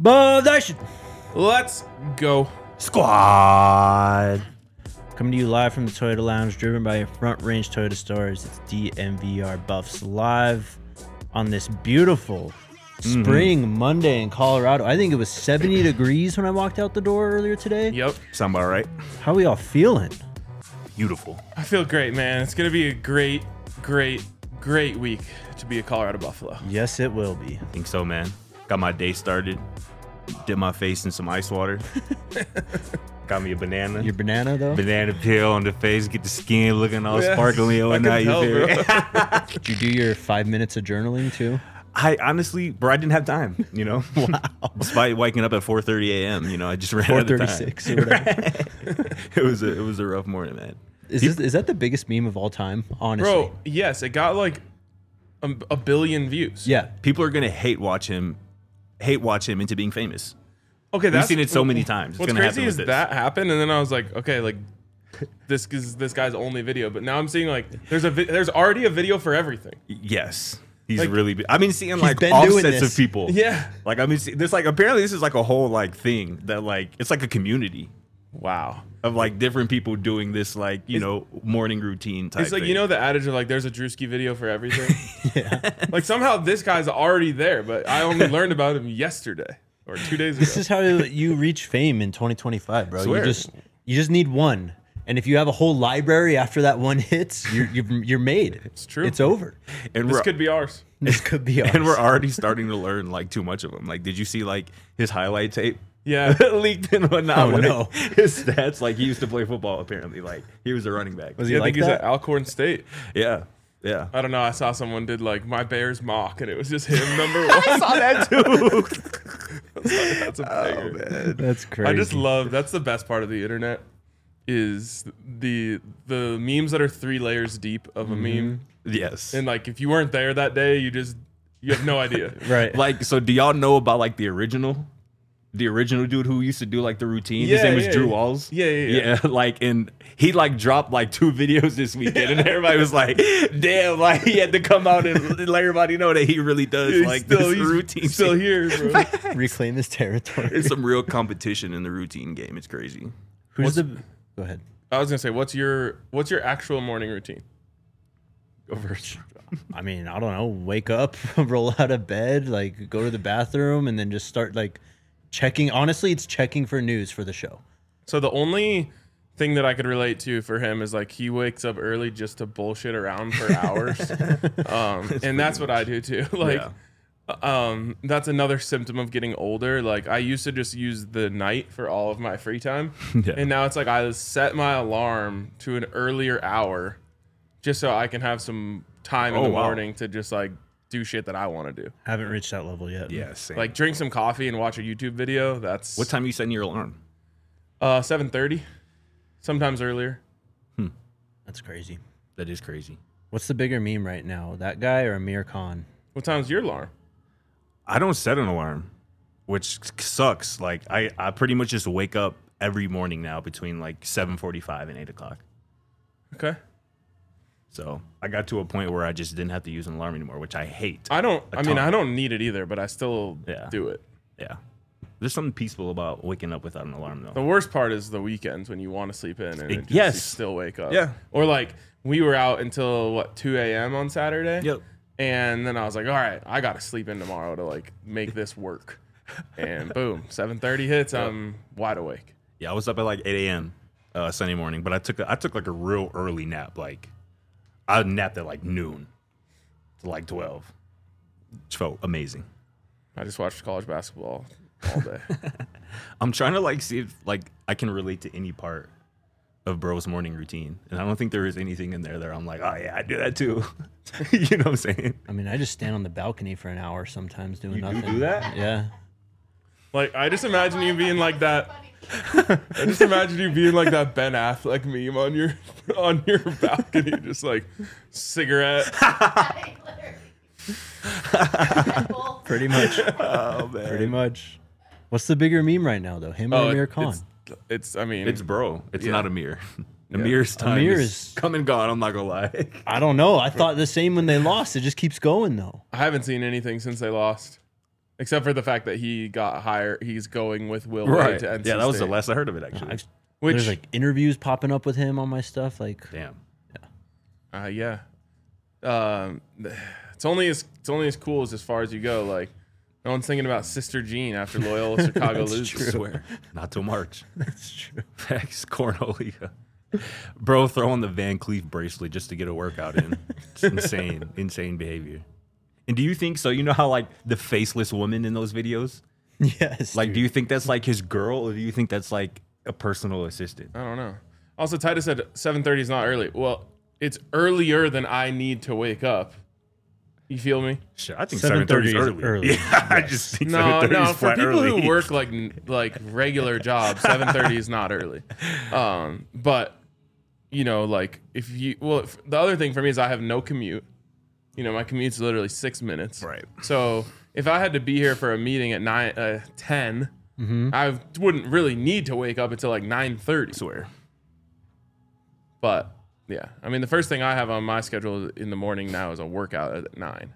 Nation Let's go. Squad. Coming to you live from the Toyota Lounge, driven by Front Range Toyota Stores. It's DMVR Buffs live on this beautiful spring Monday in Colorado. I think it was 70 degrees when I walked out the door earlier today. Yep. Sound about right? How we all feeling? Beautiful. I feel great, man. It's going to be a great week to be a Colorado Buffalo. Yes, it will be. I think so, man. Got my day started. Dip my face in some ice water. Got me a banana. Your banana, though? Banana peel on the face. Get the skin looking all Yeah, sparkly and whatnot. I can You tell, feel me? Did you do your 5 minutes of journaling, too? I honestly, bro, I didn't have time, you know? Wow. Despite waking up at 4:30 a.m., you know, I just ran out of time. 4:36 or whatever. It was a rough morning, man. Is that the biggest meme of all time, honestly? Bro, yes, it got like a billion views. Yeah. People are going to hate watch him into being famous. Okay, We've seen it so many times. It's What's gonna crazy happen is with this. that happened, and then I was like, okay, like this is this guy's only video, but now I'm seeing like there's already a video for everything. Yes. He's Like, really been. I've been seeing like been doing offsets this. of people. Yeah. Like I mean, there's like apparently this is like a whole like thing that like it's like a community Wow. of like different people doing this like morning routine type. It's like, thing. you know, the adage of like there's a Drewski video for everything. Yeah. Like somehow this guy's already there, but I only learned about him yesterday or 2 days ago. This is how you reach fame in 2025, bro. Swear. You just need one, and if you have a whole library after that one hits, you're made. It's true. It's over. and This we're could be ours. This could be ours. and we're already starting to learn like too much of him. Like, did you see like his highlight tape? Yeah. Leaked and whatnot. Oh, Like, no. His stats, like he used to play football. Apparently, like he was a running back. Was he Yeah, I like think he's that? at Alcorn State. Yeah, yeah. I don't know. I saw someone did like my Bears mock, and it was just him number one. I saw that too. That's a banger. That's crazy. I just love. That's the best part of the internet is the memes that are 3 layers deep of a meme, Yes. and like if you weren't there that day, you have no idea. right. Like, so do y'all know about like the original dude who used to do like the routine? His Yeah, name was yeah, Drew yeah. Walls. Yeah. Like, and he like dropped like 2 videos this weekend, and everybody was like, "Damn!" Like he had to come out and let everybody know that he really does He's like still, this he's routine. still here, bro. reclaim his territory. It's some real competition in the routine game. It's crazy. Who's the? Go ahead. I was gonna say, what's your actual morning routine? Go first. I mean, I don't know. Wake up, roll out of bed, like go to the bathroom, and then just start like checking. Honestly, it's checking for news for the show. So the only thing that I could relate to for him is like he wakes up early just to bullshit around for hours, and that's what I do too. Like, that's another symptom of getting older. Like I used to just use the night for all of my free time, Yeah. and now it's like I set my alarm to an earlier hour, just so I can have some time in Oh, the wow. morning to just like do shit that I want to do. Haven't reached that level yet. Yeah. Same. Like drink some coffee and watch a YouTube video. That's what time you setting your alarm? 7:30, sometimes earlier. That's crazy. That is crazy. What's the bigger meme right now? That guy or Amir Khan? What time's your alarm? I don't set an alarm, which sucks. Like I pretty much just wake up every morning now between like 7:45 and 8 o'clock. Okay. So I got to a point where I just didn't have to use an alarm anymore, which I hate. I don't ton. need it either, but I still Yeah. do it. Yeah. There's something peaceful about waking up without an alarm, The though. worst part is the weekends when you want to sleep in and it just, Yes. you still wake up. Yeah. Or like we were out until 2 a.m. on Saturday. Yep. And then I was like, all right, I got to sleep in tomorrow to like make this work. And boom, 7:30 hits. I'm wide awake. Yeah, I was up at like 8 a.m. Sunday morning, but I took like a real early nap. Like I napped at like noon to like 12. It felt amazing. I just watched college basketball all day. I'm trying to like see if like I can relate to any part of bro's morning routine, and I don't think there is anything in there that I'm like, oh yeah, I do that too. You know what I'm saying? I mean, I just stand on the balcony for an hour sometimes doing You do nothing. do that? Yeah. Like I just imagine you being like that. I just imagine you being like that Ben Affleck meme on your balcony, just like cigarette. Pretty much. Oh man, Pretty much. What's the bigger meme right now, though? Him or Amir Khan? It's I mean It's bro. It's Yeah. not Amir. Amir's time Amir is is- come and gone. I'm not gonna lie. I don't know. I thought the same when they lost. It just keeps going, though. I haven't seen anything since they lost. except for the fact that he got hired. He's going with Will Wade to NC Yeah, that was the State. last I heard of it, actually. There's like interviews popping up with him on my stuff. Like, Damn. Yeah. It's only as cool as far as you go. Like, no one's thinking about Sister Jean after Loyola Chicago loses. true. I swear. Not till March. that's true. Facts, Cornholia. Bro throwing the Van Cleef bracelet just to get a workout in. It's insane behavior. And do you think so? You know how like the faceless woman in those videos? Yes. Like, dude. do you think that's like his girl, or do you think that's like a personal assistant? I don't know. Also, Titus said 7:30 is not early. Well, it's earlier than I need to wake up. You feel me? Sure, I think 7:30 7:30 is is early. early. Yeah, I just think No, 7:30 is for flat people early. who work like regular jobs, 7:30 is not early. But you know, like if the other thing for me is I have no commute. You know, my commute's literally 6 minutes. Right. So if I had to be here for a meeting at 10, I wouldn't really need to wake up until like 9:30. swear. But yeah, I mean, the first thing I have on my schedule in the morning now is a workout at 9.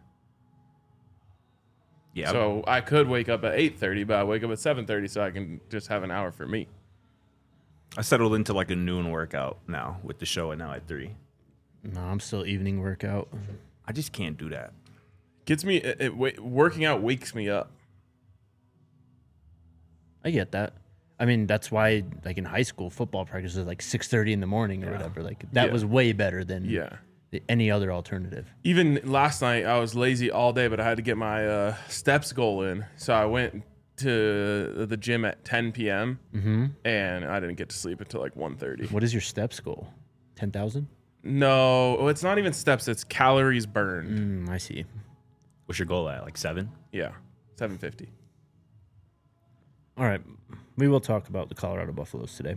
Yeah. So I could wake up at 8:30, but I wake up at 7:30 so I can just have an hour for me. I settled into like a noon workout now with the show, and now at 3. No, I'm still evening workout. I just can't do that. Gets me working out wakes me up. I get that. I mean, that's why, like in high school, football practice is like 6:30 in the morning or whatever. Like that Yeah. was way better than any other alternative. Even last night I was lazy all day, but I had to get my steps goal in, so I went to the gym at 10 p.m. And I didn't get to sleep until like 1:30. What is your steps goal? 10,000? No, it's not even steps. It's calories burned. I see. What's your goal at? Like 7? Yeah, 750. All right. We will talk about the Colorado Buffaloes today.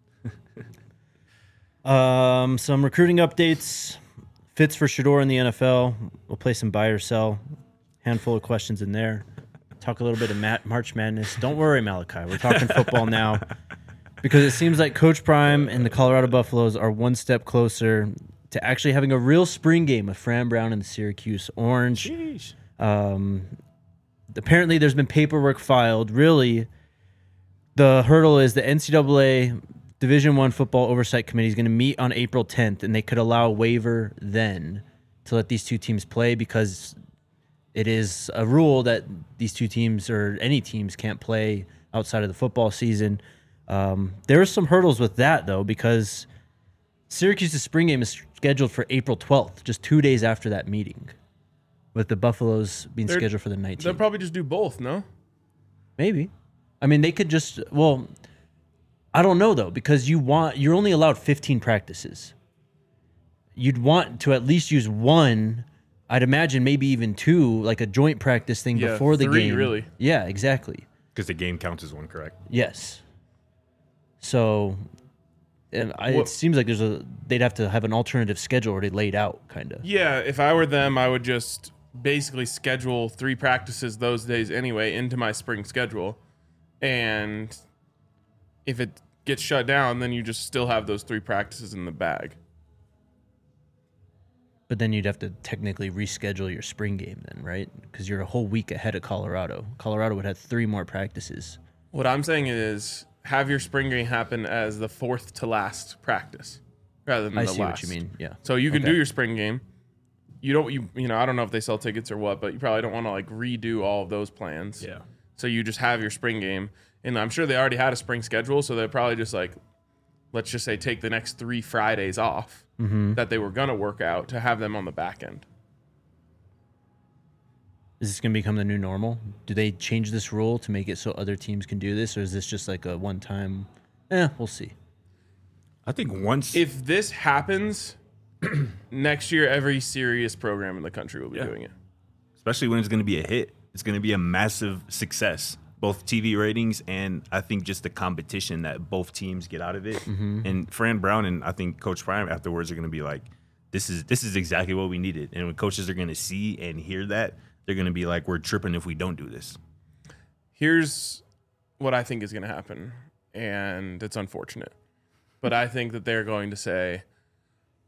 Some recruiting updates. Fits for Shedeur in the NFL. We'll play some buy or sell. Handful of questions in there. Talk a little bit of March Madness. Don't worry, Malachi. We're talking football now. Because it seems like Coach Prime and the Colorado Buffaloes are one step closer to actually having a real spring game with Fran Brown and the Syracuse Orange. Sheesh. Apparently, there's been paperwork filed. Really, the hurdle is the NCAA Division I Football Oversight Committee is going to meet on April 10th, and they could allow a waiver then to let these two teams play because it is a rule that these two teams or any teams can't play outside of the football season. There are some hurdles with that, though, because Syracuse's spring game is scheduled for April 12th, just 2 days after that meeting, with the Buffaloes being scheduled for the 19th. They'll probably just do both, no? Maybe. I mean, they could just, well, I don't know, though, because you're only allowed 15 practices. You'd want to at least use one, I'd imagine maybe even 2, like a joint practice thing before the 3, game. really. Yeah, exactly. Because the game counts as one, correct? Yes. So it seems like they'd have to have an alternative schedule already laid out, kind of. Yeah, if I were them, I would just basically schedule 3 practices those days anyway into my spring schedule. And if it gets shut down, then you just still have those 3 practices in the bag. But then you'd have to technically reschedule your spring game then, right? Because you're a whole week ahead of Colorado. Colorado would have 3 more practices. What I'm saying is have your spring game happen as the 4th to last practice rather than the last. I see what you mean, yeah. So you can Okay. do your spring game. You know, I don't know if they sell tickets or what, but you probably don't want to like redo all of those plans. Yeah. So you just have your spring game. And I'm sure they already had a spring schedule, so they're probably just like, let's just say take the next 3 Fridays off that they were going to work out to have them on the back end. Is this going to become the new normal? Do they change this rule to make it so other teams can do this, or is this just like a one-time, we'll see. I think once... If this happens, next year every serious program in the country will be doing it. Especially when it's going to be a hit. It's going to be a massive success. Both TV ratings and I think just the competition that both teams get out of it. And Fran Brown and I think Coach Prime afterwards are going to be like, this is exactly what we needed. And when coaches are going to see and hear that, they're going to be like, we're tripping if we don't do this. Here's what I think is going to happen, and it's unfortunate. But I think that they're going to say,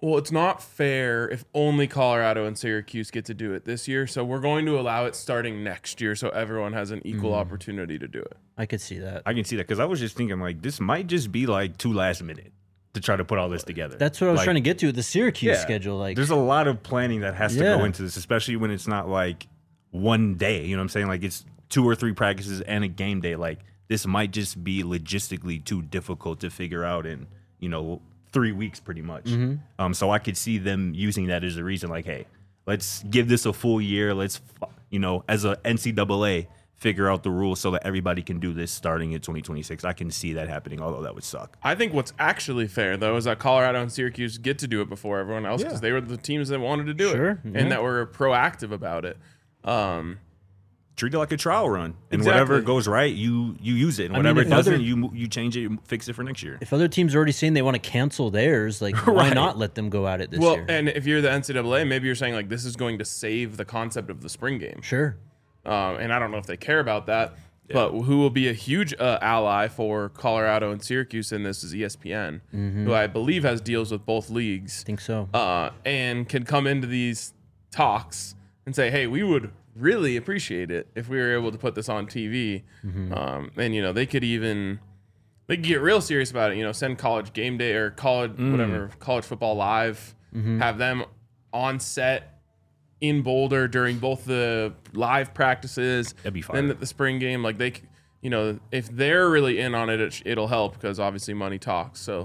Well, it's not fair if only Colorado and Syracuse get to do it this year. So we're going to allow it starting next year so everyone has an equal opportunity to do it. I could see that. I can see that because I was just thinking like this might just be like too last minute to try to put all this together. That's what I was trying to get to with the Syracuse schedule. Like, there's a lot of planning that has to go into this, especially when it's not like one day. You know what I'm saying? Like it's 2 or 3 practices and a game day. Like this might just be logistically too difficult to figure out in 3 weeks pretty much. So I could see them using that as a reason. Like, hey, let's give this a full year. Let's as a NCAA, figure out the rules so that everybody can do this starting in 2026. I can see that happening, although that would suck. I think what's actually fair, though, is that Colorado and Syracuse get to do it before everyone else because they were the teams that wanted to do it and that were proactive about it. Treat it like a trial run, and Exactly. whatever goes right, you use it, and whatever it doesn't, you change it, you fix it for next year. If other teams are already saying they want to cancel theirs, like why not let them go at it this year? Well, and if you're the NCAA, maybe you're saying like this is going to save the concept of the spring game. Sure. And I don't know if they care about that, but who will be a huge ally for Colorado and Syracuse in this is ESPN, who I believe has deals with both leagues. I think so. And can come into these talks and say, hey, we would really appreciate it if we were able to put this on TV. And, they could get real serious about it, send College Game Day or college football live, have them on set in Boulder during both the live practices and the spring game. Like if they're really in on it, it'll help because obviously money talks. So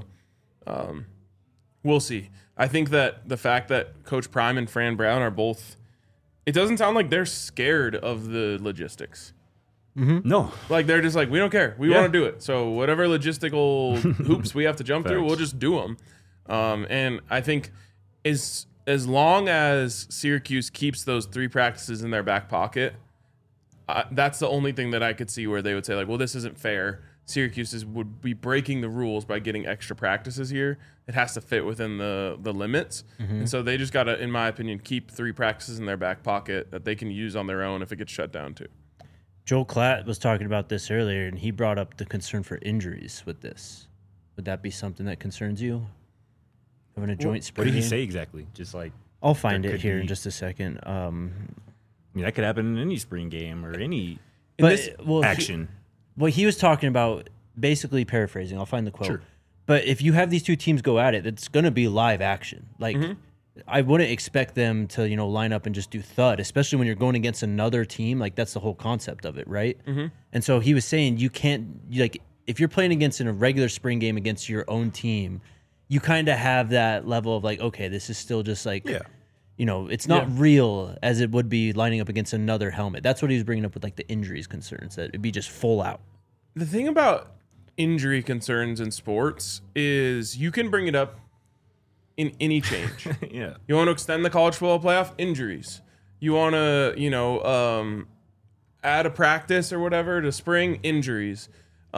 we'll see. I think that the fact that Coach Prime and Fran Brown are both, it doesn't sound like they're scared of the logistics. No. Like they're just like, we don't care. We want to do it. So whatever logistical hoops we have to jump through, we'll just do them. And I think as long as Syracuse keeps those 3 practices in their back pocket, that's the only thing that I could see where they would say like, well, this isn't fair. Syracuse would be breaking the rules by getting extra practices here. It has to fit within the limits. And so they just got to, in my opinion, keep 3 practices in their back pocket that they can use on their own if it gets shut down too. Joel Klatt was talking about this earlier, and he brought up the concern for injuries with this. Would that be something that concerns you? Having a joint sprain? What did he say exactly? Just like I'll find it here in just a second. I mean, that could happen in any spring game or any action. He was talking about, basically paraphrasing, I'll find the quote. Sure. But if you have these 2 teams go at it, it's going to be live action. Like, I wouldn't expect them to, line up and just do thud, especially when you're going against another team. Like, that's the whole concept of it, right? And so he was saying you can't, if you're playing against in a regular spring game against your own team, you kind of have that level of like, okay, this is still just like, it's not real as it would be lining up against another helmet. That's what he was bringing up with like the injuries concerns, that it'd be just full out. The thing about injury concerns in sports is you can bring it up in any change. You want to extend the college football playoff? Injuries. You want to, add a practice or whatever to spring? Injuries.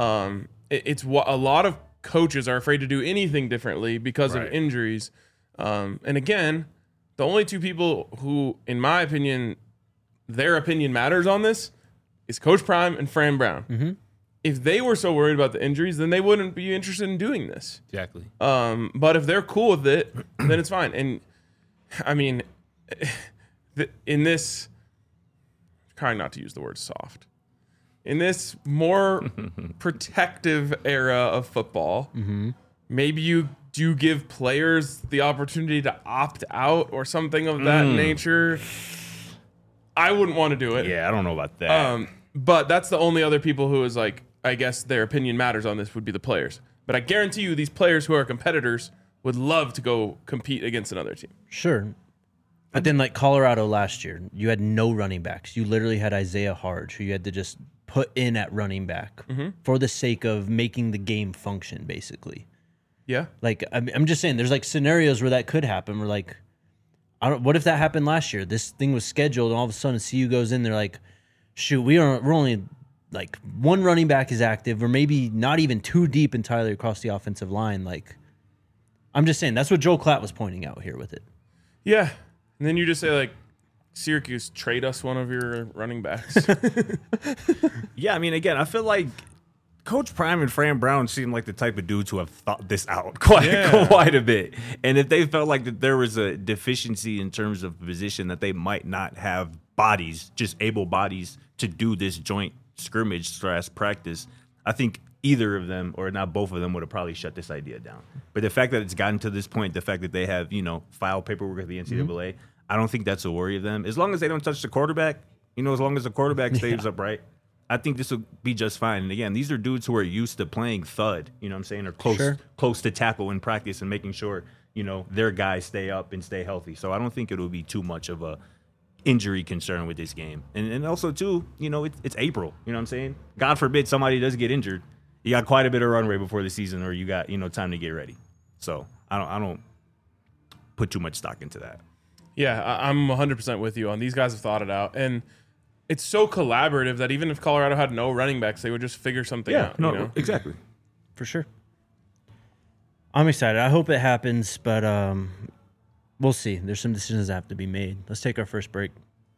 It's what a lot of coaches are afraid to do anything differently because of injuries. And again, the only 2 people who, in my opinion, their opinion matters on this is Coach Prime and Fran Brown. If they were so worried about the injuries, then they wouldn't be interested in doing this. Exactly. But if they're cool with it, then it's fine. And I mean, in this, trying not to use the word soft, in this more protective era of football, maybe you do give players the opportunity to opt out or something of that nature. I wouldn't want to do it. Yeah, I don't know about that. But that's the only other people who is like, I guess their opinion matters on this would be the players. But I guarantee you these players who are competitors would love to go compete against another team. Sure. But then like Colorado last year, you had no running backs. You literally had Isaiah Harge, who you had to just put in at running back for the sake of making the game function, basically. Yeah. Like, I'm just saying, there's like scenarios where that could happen. Where like, what if that happened last year? This thing was scheduled, and all of a sudden CU goes in there like, shoot, we're only like 1 running back is active, or maybe not even 2 deep entirely across the offensive line. Like, I'm just saying, that's what Joel Klatt was pointing out here with it. Yeah. And then you just say like, Syracuse, trade us one of your running backs. Yeah, I mean, again, I feel like Coach Prime and Fran Brown seem like the type of dudes who have thought this out quite a bit. And if they felt like that there was a deficiency in terms of position, that they might not have bodies, just able bodies to do this joint scrimmage / practice, I think either of them, or not both of them, would have probably shut this idea down. But the fact that it's gotten to this point, the fact that they have, file paperwork at the NCAA, I don't think that's a worry of them. As long as they don't touch the quarterback, as long as the quarterback stays upright, I think this will be just fine. And again, these are dudes who are used to playing thud, you know what I'm saying, or close to tackle in practice and making sure, their guys stay up and stay healthy. So I don't think it'll be too much of a injury concern with this game. And also, too, it's April, you know what I'm saying? God forbid somebody does get injured. You got quite a bit of runway before the season, or you got, time to get ready. So I don't put too much stock into that. Yeah, I'm 100% with you on these guys have thought it out. And it's so collaborative that even if Colorado had no running backs, they would just figure something out. No, exactly. For sure. I'm excited. I hope it happens, but we'll see. There's some decisions that have to be made. Let's take our first break.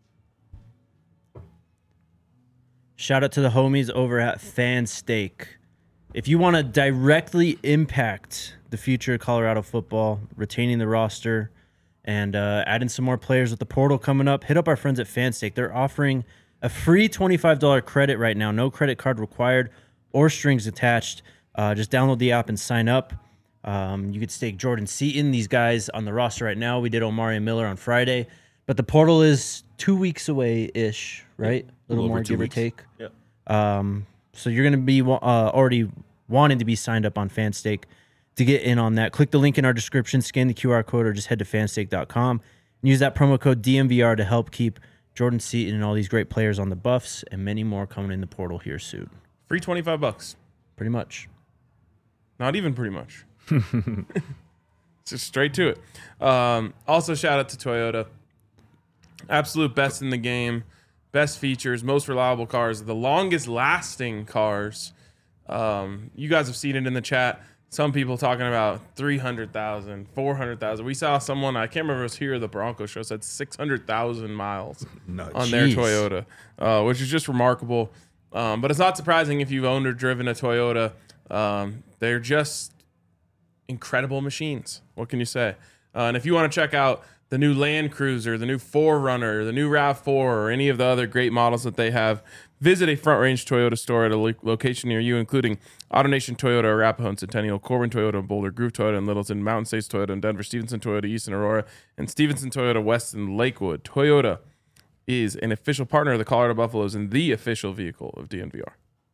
Shout out to the homies over at Fan Steak. If you want to directly impact the future of Colorado football, retaining the roster, and adding some more players with the portal coming up, hit up our friends at Fan Steak. They're offering a free $25 credit right now. No credit card required or strings attached. Just download the app and sign up. You could stake Jordan Seaton, these guys on the roster right now. We did Omari and Miller on Friday. But the portal is 2 weeks away-ish, right? A little more, give or take. Yep. So you're going to be already wanting to be signed up on Fan Steak. To get in on that, click the link in our description, scan the QR code, or just head to fanstake.com and use that promo code DMVR to help keep Jordan Seaton and all these great players on the Buffs and many more coming in the portal here soon. Free $25. Pretty much. Not even pretty much. Just straight to it. Also, shout out to Toyota. Absolute best in the game. Best features, most reliable cars, the longest lasting cars. You guys have seen it in the chat. Some people talking about 300,000, 400,000. We saw someone, I can't remember if it was here or the Bronco show, said 600,000 miles on their Toyota, which is just remarkable. But it's not surprising if you've owned or driven a Toyota. They're just incredible machines. What can you say? And if you want to check out the new Land Cruiser, the new 4Runner, the new RAV4, or any of the other great models that they have, visit a Front Range Toyota store at a location near you, including AutoNation Toyota, Arapahoe and Centennial, Corbin Toyota, Boulder, Groove Toyota, and Littleton, Mountain States Toyota, and Denver, Stevenson Toyota, East and Aurora, and Stevenson Toyota, West and Lakewood. Toyota is an official partner of the Colorado Buffaloes and the official vehicle of DNVR.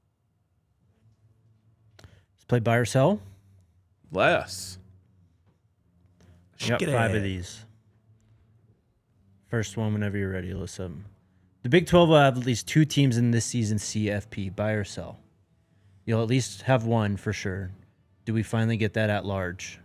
Let's play buy or sell. Less. I got 5 of these. First one, whenever you're ready, listen. The Big 12 will have at least 2 teams in this season's CFP. Buy or sell? You'll at least have one for sure. Do we finally get that at large?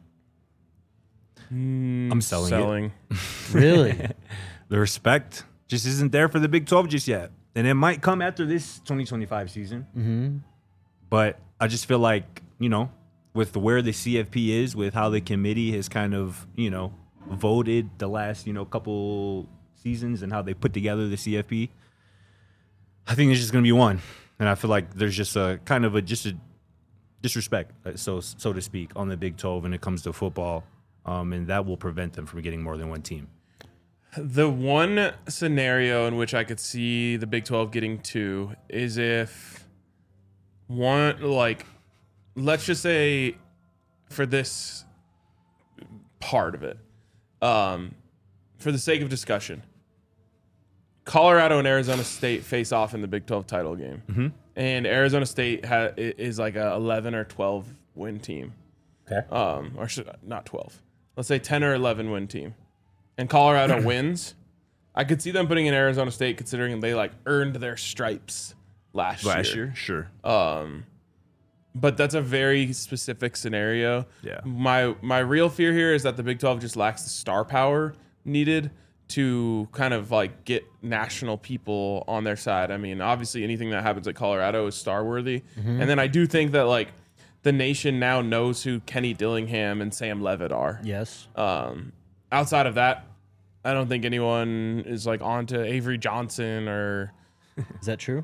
I'm selling it. Really? The respect just isn't there for the Big 12 just yet. And it might come after this 2025 season. Mm-hmm. But I just feel like, with where the CFP is, with how the committee has kind of, voted the last, couple seasons and how they put together the CFP, I think there's just going to be one. And I feel like there's just a kind of a disrespect, so to speak, on the Big 12 when it comes to football, and that will prevent them from getting more than one team. The one scenario in which I could see the Big 12 getting 2 is if one, let's just say for this part of it, for the sake of discussion, Colorado and Arizona State face off in the Big 12 title game. Mm-hmm. And Arizona State is like a 11 or 12 win team. Okay. Not 12. Let's say 10 or 11 win team. And Colorado wins. I could see them putting in Arizona State considering they earned their stripes last year. Sure. But that's a very specific scenario. Yeah. My real fear here is that the Big 12 just lacks the star power needed to kind of get national people on their side. I mean, obviously anything that happens at Colorado is star worthy. Mm-hmm. And then I do think that the nation now knows who Kenny Dillingham and Sam Levitt are. Yes. Outside of that, I don't think anyone is on to Avery Johnson or. Is that true?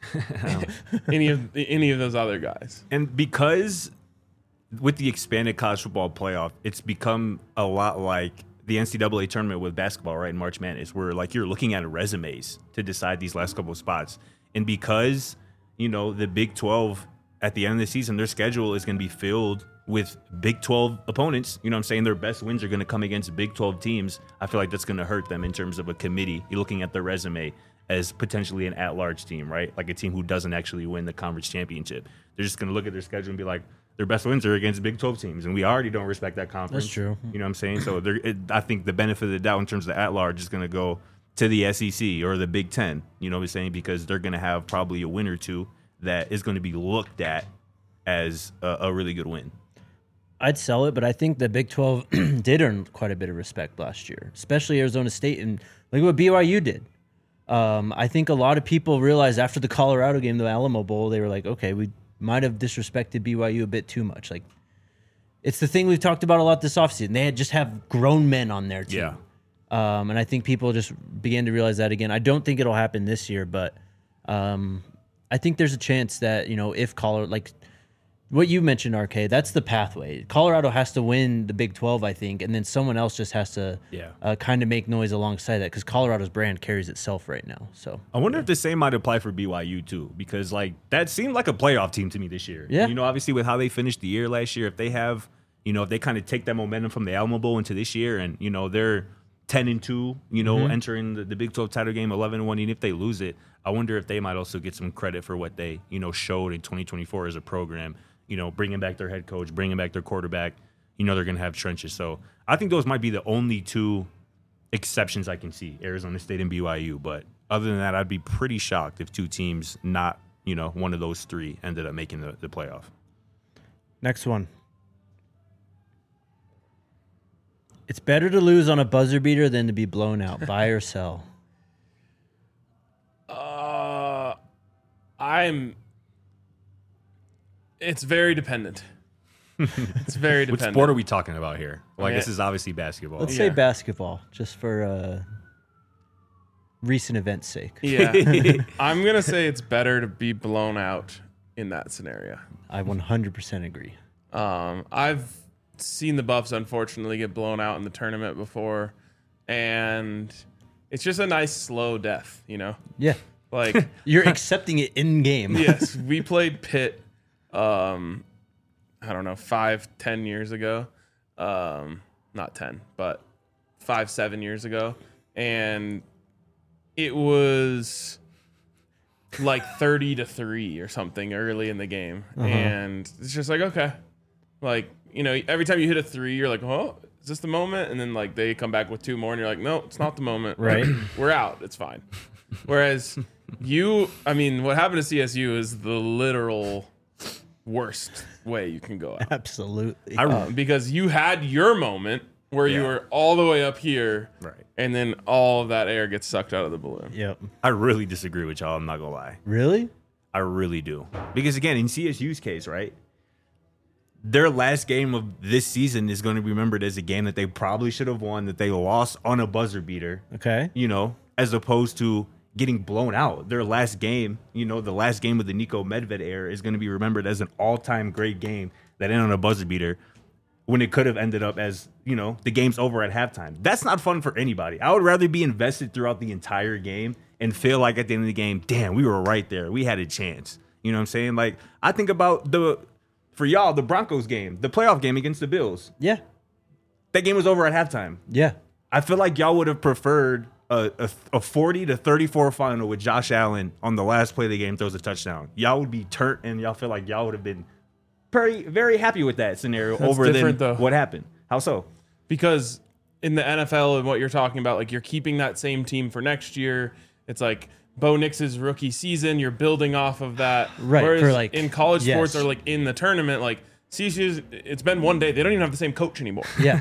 any of those other guys. And because with the expanded college football playoff, it's become a lot like the NCAA tournament with basketball, right? In March Madness, where like you're looking at resumes to decide these last couple of spots. And because, the Big 12 at the end of the season, their schedule is going to be filled with Big 12 opponents. You know what I'm saying? Their best wins are going to come against Big 12 teams. I feel like that's going to hurt them in terms of a committee. You're looking at their resume as potentially an at-large team, right? Like a team who doesn't actually win the conference championship. They're just going to look at their schedule and be like, their best wins are against Big 12 teams, and we already don't respect that conference. That's true. You know what I'm saying? So I think the benefit of the doubt in terms of the at-large is going to go to the SEC or the Big 10, you know what I'm saying? Because they're going to have probably a win or two that is going to be looked at as a really good win. I'd sell it, but I think the Big 12 did earn quite a bit of respect last year, especially Arizona State, and look what BYU did. I think a lot of people realized after the Colorado game, the Alamo Bowl, they were like, okay, we might have disrespected BYU a bit too much. Like, it's the thing we've talked about a lot this offseason. They just have grown men on their team. Yeah. And I think people just began to realize that again. I don't think it'll happen this year, but I think there's a chance that, if Colorado, like what you mentioned, RK, that's the pathway. Colorado has to win the Big 12, I think, and then someone else just has to kind of make noise alongside that because Colorado's brand carries itself right now. So I wonder if the same might apply for BYU too, because like that seemed like a playoff team to me this year. Yeah. Obviously with how they finished the year last year, if they have, if they kind of take that momentum from the Alamo Bowl into this year and, they're 10-2, entering the Big 12 title game 11-1, and if they lose it, I wonder if they might also get some credit for what they, showed in 2024 as a program. Bringing back their head coach, bringing back their quarterback, they're going to have trenches. So I think those might be the only two exceptions I can see, Arizona State and BYU. But other than that, I'd be pretty shocked if two teams, not, one of those three, ended up making the playoff. Next one. It's better to lose on a buzzer beater than to be blown out. Buy or sell? It's very dependent. It's very dependent. What sport are we talking about here? Well, I Yeah. guess it's obviously basketball. Let's say basketball, just for recent events' sake. Yeah. I'm going to say it's better to be blown out in that scenario. I 100% agree. I've seen the Buffs, unfortunately, get blown out in the tournament before, and it's just a nice, slow death, Yeah. Like You're accepting it in game. Yes, we played Pitt, I don't know, 5-10 years ago. Not 10, but 5-7 years ago. And it was like 30-3 or something early in the game. And it's just like, okay. Like, every time you hit a three, you're like, oh, is this the moment? And then like they come back with two more and you're like, no, it's not the moment. Right. Like, we're out. It's fine. Whereas what happened to CSU is the literal worst way you can go out. Absolutely. Because you had your moment where you were all the way up here, Right. and then all of that air gets sucked out of the balloon. Yep. I really disagree with y'all. I'm not going to lie. Really? I really do. Because, again, in CSU's case, right, their last game of this season is going to be remembered as a game that they probably should have won, that they lost on a buzzer beater. Okay. As opposed to getting blown out. Their last game, the last game of the Nico Medved era is going to be remembered as an all-time great game that ended on a buzzer beater when it could have ended up as, the game's over at halftime. That's not fun for anybody. I would rather be invested throughout the entire game and feel like at the end of the game, damn, we were right there. We had a chance. You know what I'm saying? Like, I think about for y'all, the Broncos game, the playoff game against the Bills. Yeah. That game was over at halftime. Yeah. I feel like y'all would have preferred a 40-34 final with Josh Allen on the last play of the game throws a touchdown. Y'all would be turned, and y'all feel like y'all would have been very, very happy with that scenario over than what happened. How so? Because in the NFL and what you're talking about, like you're keeping that same team for next year. It's like Bo Nix's rookie season. You're building off of that. Right. Whereas in college sports or like in the tournament, like CSU's, it's been one day. They don't even have the same coach anymore. Yeah.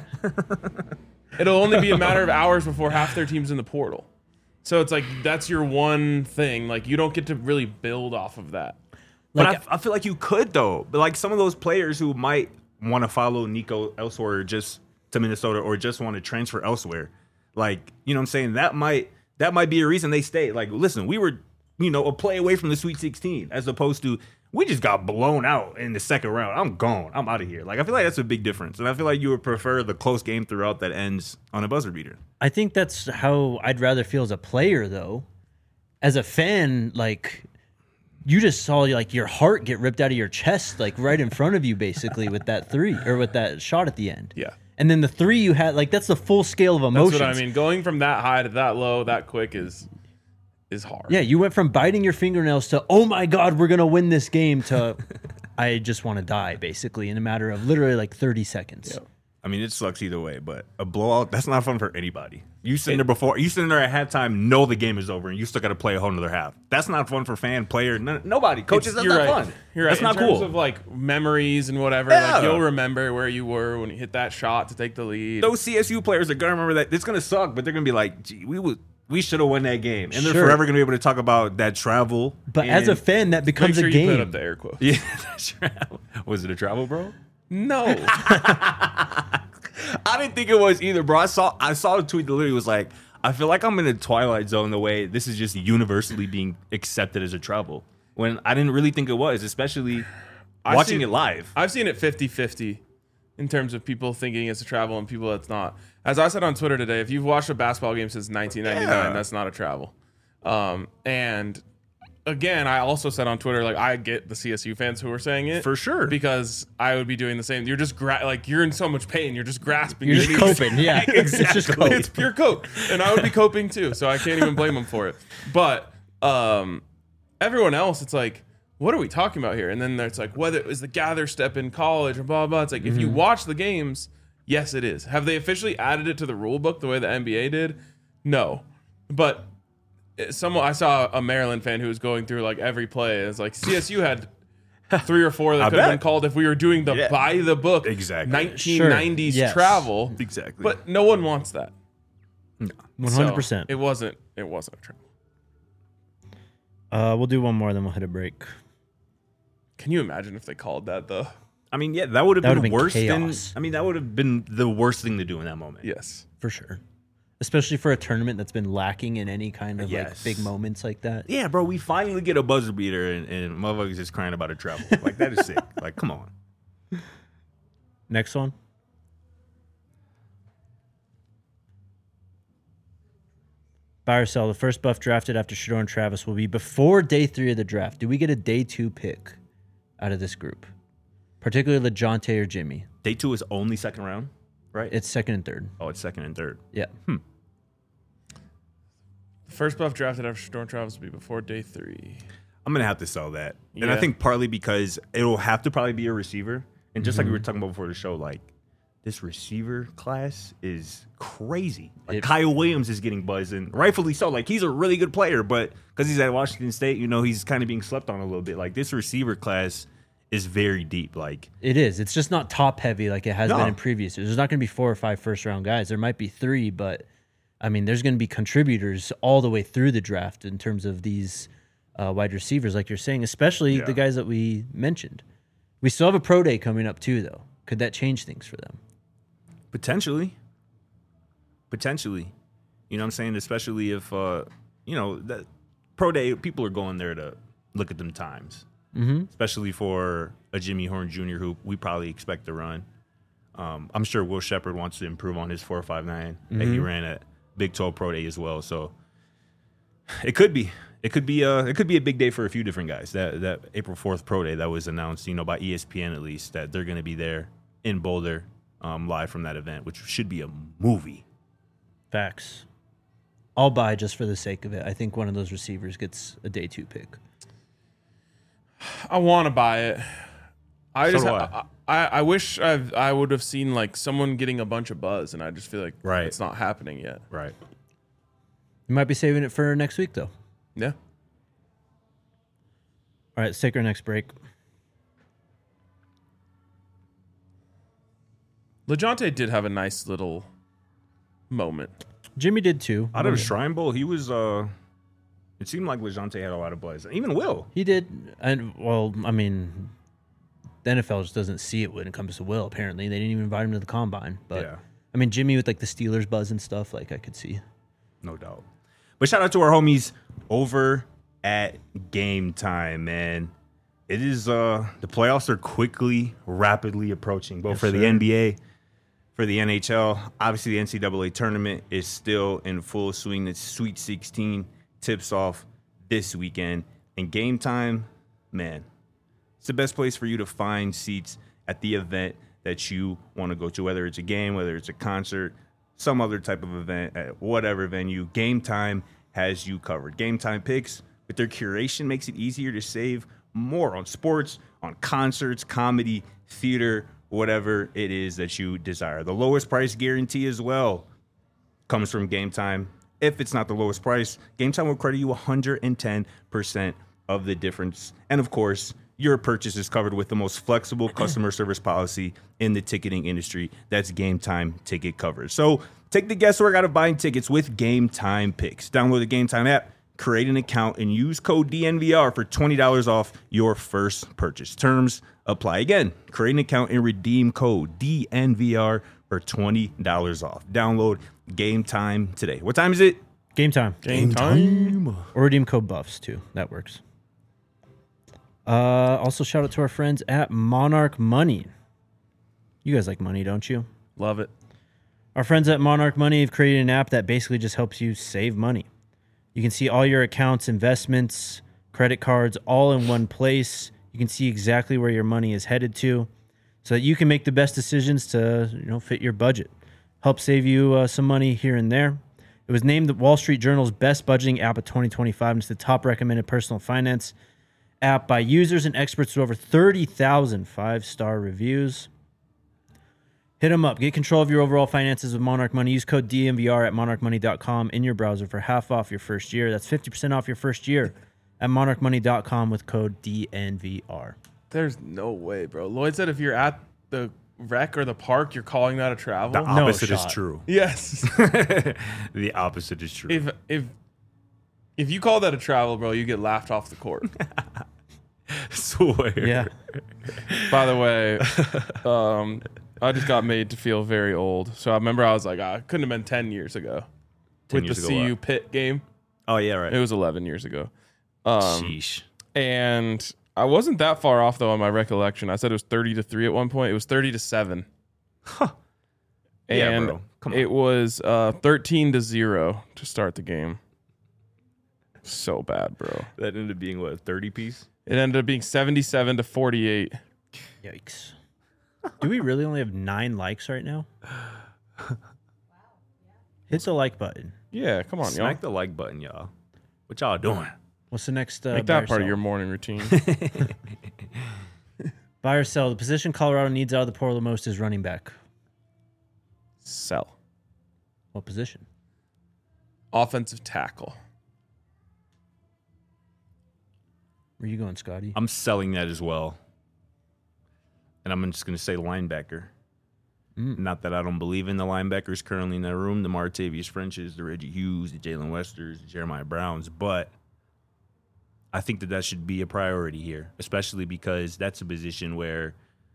It'll only be a matter of hours before half their team's in the portal. So it's like that's your one thing. Like you don't get to really build off of that. But I feel like you could, though. But like some of those players who might want to follow Nico elsewhere, just to Minnesota, or just want to transfer elsewhere, like, you know what I'm saying? That might be a reason they stay. Like, listen, we were a play away from the Sweet 16, as opposed to we just got blown out in the second round. I'm gone. I'm out of here. Like, I feel like that's a big difference. And I feel like you would prefer the close game throughout that ends on a buzzer beater. I think that's how I'd rather feel as a player, though. As a fan, like, you just saw like your heart get ripped out of your chest, like right in front of you, basically, with that three or with that shot at the end. Yeah. And then the three you had, like, that's the full scale of emotions. That's what I mean. Going from that high to that low, that quick is hard. Yeah, you went from biting your fingernails to, oh my God, we're going to win this game, to I just want to die, basically, in a matter of literally like 30 seconds. Yep. I mean, it sucks either way, but a blowout, that's not fun for anybody. You sitting there at halftime, know the game is over, and you still got to play a whole nother half. That's not fun for fan, player, nobody. Coaches, that's not fun. You're right. That's not cool. In terms of like memories and whatever, Yeah. like you'll remember where you were when you hit that shot to take the lead. Those CSU players are going to remember that. It's going to suck, but they're going to be like, gee, we should have won that game. And they're Sure. forever going to be able to talk about that travel. But as a fan, that Make becomes sure a you game. put up the air quotes. Yeah, that's travel. Was it a travel, bro? No. I didn't think it was either, bro. I saw a tweet that literally was like, I feel like I'm in a Twilight Zone the way this is just universally being accepted as a travel. When I didn't really think it was, especially watching it live. I've seen it 50-50 in terms of people thinking it's a travel and people that's not. As I said on Twitter today, if you've watched a basketball game since 1999, that's not a travel. And again, I also said on Twitter, like, I get the CSU fans who are saying it. For sure. Because I would be doing the same. You're just, you're in so much pain. You're just grasping. You're your just knees. coping, yeah. Exactly. It's just cope. It's pure cope. And I would be coping too. So I can't even blame them for it. But everyone else, it's like, what are we talking about here? And then it's like, whether it was the gather step in college or blah, blah. It's like, if you watch the games, yes, it is. Have they officially added it to the rule book the way the NBA did? No. But I saw a Maryland fan who was going through like every play. It's like CSU had 3 or 4 that could have been called if we were doing the by the book 1990s travel. Exactly. But no one wants that. No. 100%. So it wasn't a travel. We'll do one more, then we'll hit a break. Can you imagine if they called that though? I mean, yeah, that would have been worse chaos. that would have been the worst thing to do in that moment. Yes. For sure. Especially for a tournament that's been lacking in any kind of like Yes. big moments like that. Yeah, bro, we finally get a buzzer beater and motherfuckers just crying about a travel. Like, that is sick. Like, come on. Next one. Buy or sell. The first buff drafted after Shador and Travis will be before day 3 of the draft. Do we get a day 2 pick out of this group? Particularly LeJounte or Jimmy. Day 2 is only second round, right? It's second and third. Oh, it's second and third. Yeah. The first buff drafted after Shador and Travis will be before day 3. I'm going to have to sell that. And I Yeah. think partly because it'll have to probably be a receiver. And just like we were talking about before the show, like, this receiver class is crazy. Like, Kyle Williams is getting buzzed, and rightfully so. Like, he's a really good player, but because he's at Washington State, he's kind of being slept on a little bit. Like, this receiver class is very deep. Like, It is. It's just not top heavy like it has been in previous years. There's not going to be 4 or 5 first round guys. There might be 3, but I mean, there's going to be contributors all the way through the draft in terms of these wide receivers, like you're saying, especially the guys that we mentioned. We still have a pro day coming up too, though. Could that change things for them? Potentially. You know what I'm saying? Especially if, that pro day, people are going there to look at them times. Mm-hmm. Especially for a Jimmy Horn Jr., who we probably expect to run. I'm sure Will Shepherd wants to improve on his 4.59 that he ran at Big 12 Pro Day as well. So it could be a big day for a few different guys. That April 4th Pro Day that was announced, by ESPN at least, that they're going to be there in Boulder, live from that event, which should be a movie. Facts. I'll buy just for the sake of it. I think one of those receivers gets a day 2 pick. I want to buy it. I wish I would have seen like someone getting a bunch of buzz, and I just feel like it's not happening yet. Right. You might be saving it for next week, though. Yeah. All right, let's take our next break. LeJounte did have a nice little moment. Jimmy did too. Out of the Shrine Bowl, he was. It seemed like LeJounte had a lot of buzz. Even Will. He did. And, well, I mean, the NFL just doesn't see it when it comes to Will, apparently. They didn't even invite him to the combine. But, I mean, Jimmy with, like, the Steelers buzz and stuff, like, I could see. No doubt. But shout out to our homies over at Game Time, man. It is the playoffs are rapidly approaching, both for the NBA, for the NHL. Obviously, the NCAA tournament is still in full swing. The Sweet 16 tips off this weekend. And Game Time, man, it's the best place for you to find seats at the event that you want to go to, whether it's a game, whether it's a concert, some other type of event, at whatever venue. Game Time has you covered. Game Time picks, with their curation, makes it easier to save more on sports, on concerts, comedy, theater, whatever it is that you desire. The lowest price guarantee as well comes from Game Time. If it's not the lowest price, Game Time will credit you 110% of the difference. And of course, your purchase is covered with the most flexible customer service policy in the ticketing industry. That's Game Time ticket coverage. So take the guesswork out of buying tickets with Game Time picks. Download the Game Time app, create an account, and use code DNVR for $20 off your first purchase. Terms apply. Again, create an account and redeem code DNVR for $20 off. Download Game Time today. What time is it? Game Time. Game time. Or redeem code Buffs too. That works. Also, shout out to our friends at Monarch Money. You guys like money, don't you? Love it. Our friends at Monarch Money have created an app that basically just helps you save money. You can see all your accounts, investments, credit cards, all in one place. You can see exactly where your money is headed to, so that you can make the best decisions to, fit your budget. Help save you some money here and there. It was named the Wall Street Journal's best budgeting app of 2025, and it's the top recommended personal finance app by users and experts with over 30,000 5-star reviews. Hit them up. Get control of your overall finances with Monarch Money. Use code DNVR at monarchmoney.com in your browser for half off your first year. That's 50% off your first year at monarchmoney.com with code DNVR. There's no way, bro. Lloyd said if you're at the rec or the park, you're calling that a travel. The opposite is true. Yes. The opposite is true. If you call that a travel, bro, you get laughed off the court. Swear. Yeah. By the way, I just got made to feel very old. So I remember I was like, it couldn't have been 10 years ago. 10 with years the ago CU what? Pitt game. Oh, yeah, right. It was 11 years ago. Sheesh. And I wasn't that far off, though, on my recollection. I said it was 30-3 at one point. It was 30-7. Huh. And Yeah, bro. Come on. it was 13-0 to start the game. So bad, bro. That ended up being, what, 30 piece? It ended up being 77-48. Yikes. Do we really only have 9 likes right now? Hit the like button. Yeah, come on, y'all. Smack the like button, y'all. What y'all doing? What's the next? Make buy or that part of sell? your morning routine. Buy or sell. The position Colorado needs out of the portal the most is running back. Sell. What position? Offensive tackle. Where you going, Scotty? I'm selling that as well. And I'm just going to say linebacker. Not that I don't believe in the linebackers currently in that room, the Martavius Frenches, the Reggie Hughes, the Jalen Westers, the Jeremiah Browns, but I think that should be a priority here, especially because that's a position where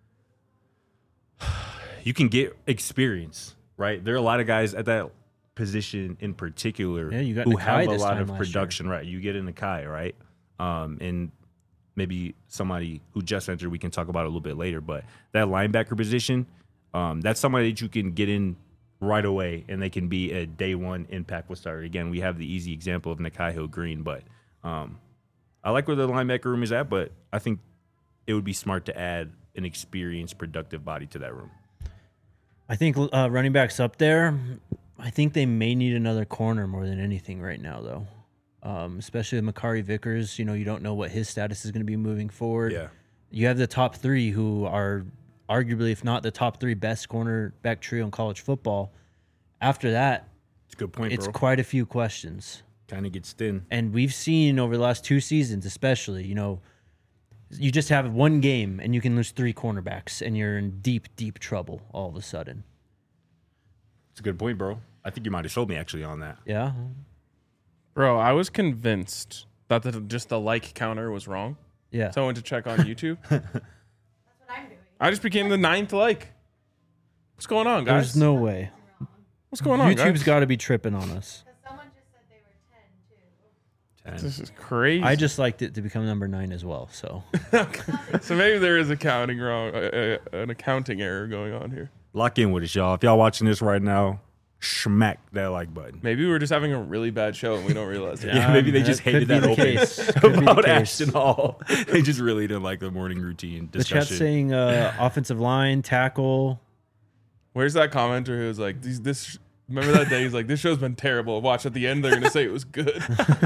you can get experience, right? There are a lot of guys at that position in particular you got who Nakai have a this lot time of last year. production, right? You get in Nakai, right? And maybe somebody who just entered, we can talk about it a little bit later, but that linebacker position, that's somebody that you can get in right away and they can be a day one impactful starter. Again, we have the easy example of Nakai Hill-Green, but I like where the linebacker room is at, but I think it would be smart to add an experienced, productive body to that room. I think running back's up there. I think they may need another corner more than anything right now, though. Especially with Makari Vickers. You don't know what his status is going to be moving forward. Yeah. You have the top 3 who are arguably, if not the top 3 best cornerback trio in college football. After that, It's a good point, it's bro. quite a few questions. Kind of gets thin. And we've seen over the last 2 seasons, especially, you just have one game and you can lose 3 cornerbacks and you're in deep, deep trouble all of a sudden. It's a good point, bro. I think you might have sold me actually on that. Yeah. Bro, I was convinced that just the like counter was wrong. Yeah. So I went to check on YouTube. That's what I'm doing. I just became the 9th like. What's going on, guys? There's no way. What's going on, YouTube's guys? got to be tripping on us. Because someone just said they were 10, too. This is crazy. I just liked it to become number 9 as well. So So maybe there is an accounting error going on here. Lock in with us, y'all. If y'all watching this right now, smack that like button. Maybe we're just having a really bad show and we don't realize it. Yeah, maybe they just could hated be that the open case. Could be the about case. Ashton Hall. They just really didn't like the morning routine The chat's discussion. saying offensive line, tackle. Where's that commenter who was like, remember that day? He's like, this show's been terrible. Watch at the end, they're going to say it was good.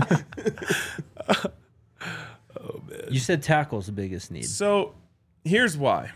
You said tackle's the biggest need. So here's why.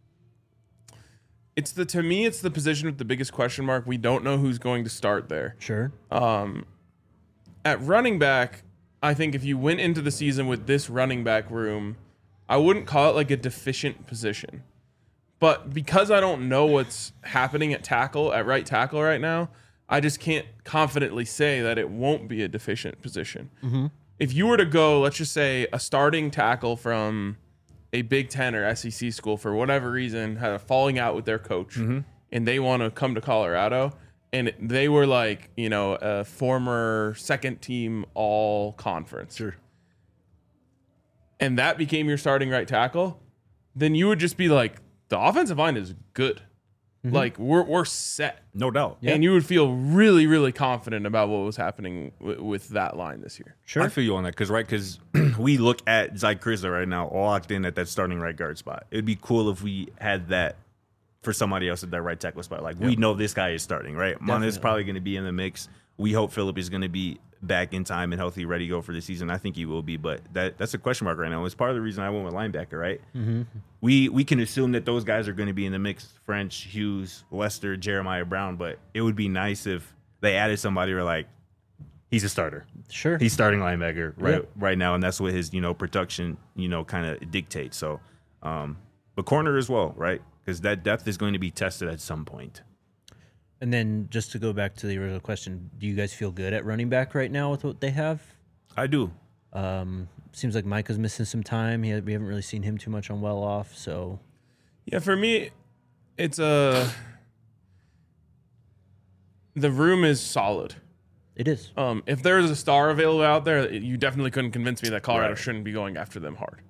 To me, it's the position with the biggest question mark. We don't know who's going to start there. Sure. At running back, I think if you went into the season with this running back room, I wouldn't call it like a deficient position. But because I don't know what's happening at right tackle right now, I just can't confidently say that it won't be a deficient position. Mm-hmm. If you were to go, let's just say a starting tackle from a Big Ten or SEC school for whatever reason had a falling out with their coach and they want to come to Colorado and they were like, a former second team all conference. Sure. And that became your starting right tackle, then you would just be like, the offensive line is good. Like we're set. No doubt. And you would feel really, really confident about what was happening with that line this year. Sure. I feel you on that because we look at Zy Crisler right now all locked in at that starting right guard spot. It would be cool if we had that for somebody else at that right tackle spot. Like we know this guy is starting, right? Mana is probably going to be in the mix. We hope Phillip is going to be back in time and healthy, ready to go for the season. I think he will be, but that's a question mark right now. It's part of the reason I went with linebacker, right? Mm-hmm. We can assume that those guys are going to be in the mix. French, Hughes, Lester, Jeremiah Brown, but it would be nice if they added somebody who are like, he's a starter. Sure. He's starting linebacker right now, and that's what his production kind of dictates. So, but corner as well, right? Because that depth is going to be tested at some point. And then just to go back to the original question, do you guys feel good at running back right now with what they have? I do. Seems like Micah's missing some time. We haven't really seen him too much on well off. So Yeah, for me, it's the room is solid. it is. If there's a star available out there, you definitely couldn't convince me that Colorado Right. shouldn't be going after them hard.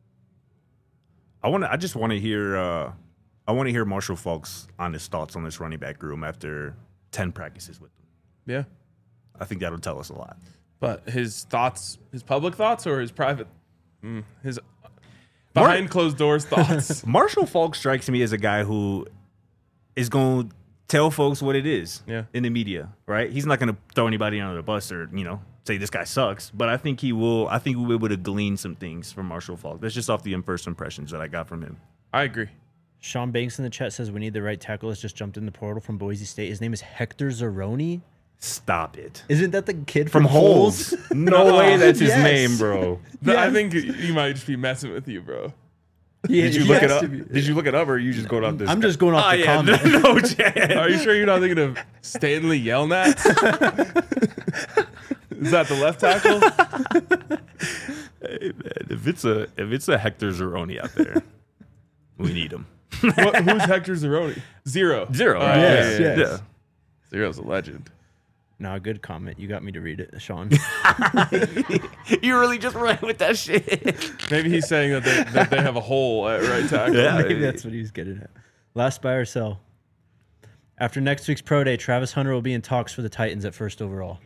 I just want to hear. I want to hear Marshall Faulk's honest thoughts on this running back room after 10 practices with them. Yeah. I think that'll tell us a lot. But his public thoughts or his private, his behind closed doors thoughts? Marshall Faulk strikes me as a guy who is going to tell folks what it is in the media, right? He's not going to throw anybody under the bus or, say this guy sucks. But I think he will. I think we'll be able to glean some things from Marshall Faulk. That's just off the first impressions that I got from him. I agree. Sean Banks in the chat says we need the right tackle. Has just jumped in the portal from Boise State. His name is Hector Zeroni. Stop it. Isn't that the kid From Holes? No way that's his Yes. name, bro. I think he might just be messing with you, bro. Did you look it up? Did you look it up, or you just going off this? I'm just going off the comment. No chance. Are you sure you're not thinking of Stanley Yelnats? Is that the left tackle? Hey, man, if it's a Hector Zeroni out there, we need him. Who's Hector Zeroni? Zero. Right? Yes, Yeah. yes. Zero's a legend. No, good comment. You got me to read it, Sean. You really just ran with that shit. Maybe he's saying that they have a hole at right tackle. Yeah. Maybe that's what he was getting at. Last buy or sell. After next week's pro day, Travis Hunter will be in talks for the Titans at first overall.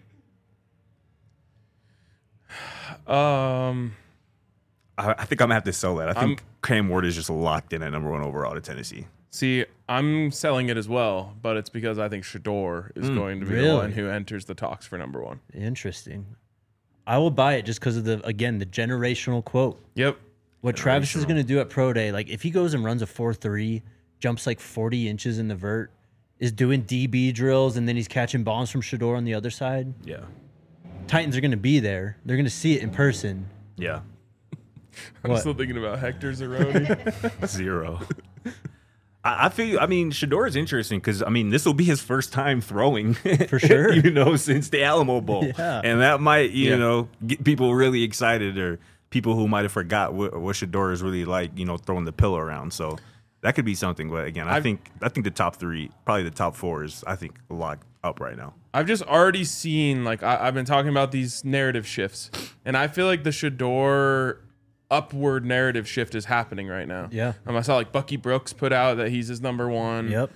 I think I'm gonna have to sell that. I think Cam Ward is just locked in at number 1 overall to Tennessee. See, I'm selling it as well, but it's because I think Shador is going to be the really? one who enters the talks for number 1. Interesting. I will buy it just because of the generational quote. Yep. What Travis is going to do at pro day, like if he goes and runs a 4.3, jumps like 40 inches in the vert, is doing DB drills, and then he's catching bombs from Shador on the other side. Yeah. Titans are going to be there. They're going to see it in person. Yeah. I'm What? still thinking about Hector Zeroni. 0. I feel. I mean, Shador is interesting because this will be his first time throwing For sure. since the Alamo Bowl, Yeah. and that might get people really excited or people who might have forgot what Shador is really like, throwing the pillow around. So that could be something. But again, I think the top 3, probably the top 4 is locked up right now. I've just already seen I've been talking about these narrative shifts, and I feel like the Shedeur upward narrative shift is happening right now. Yeah. I saw Bucky Brooks put out that he's his number 1. Yep.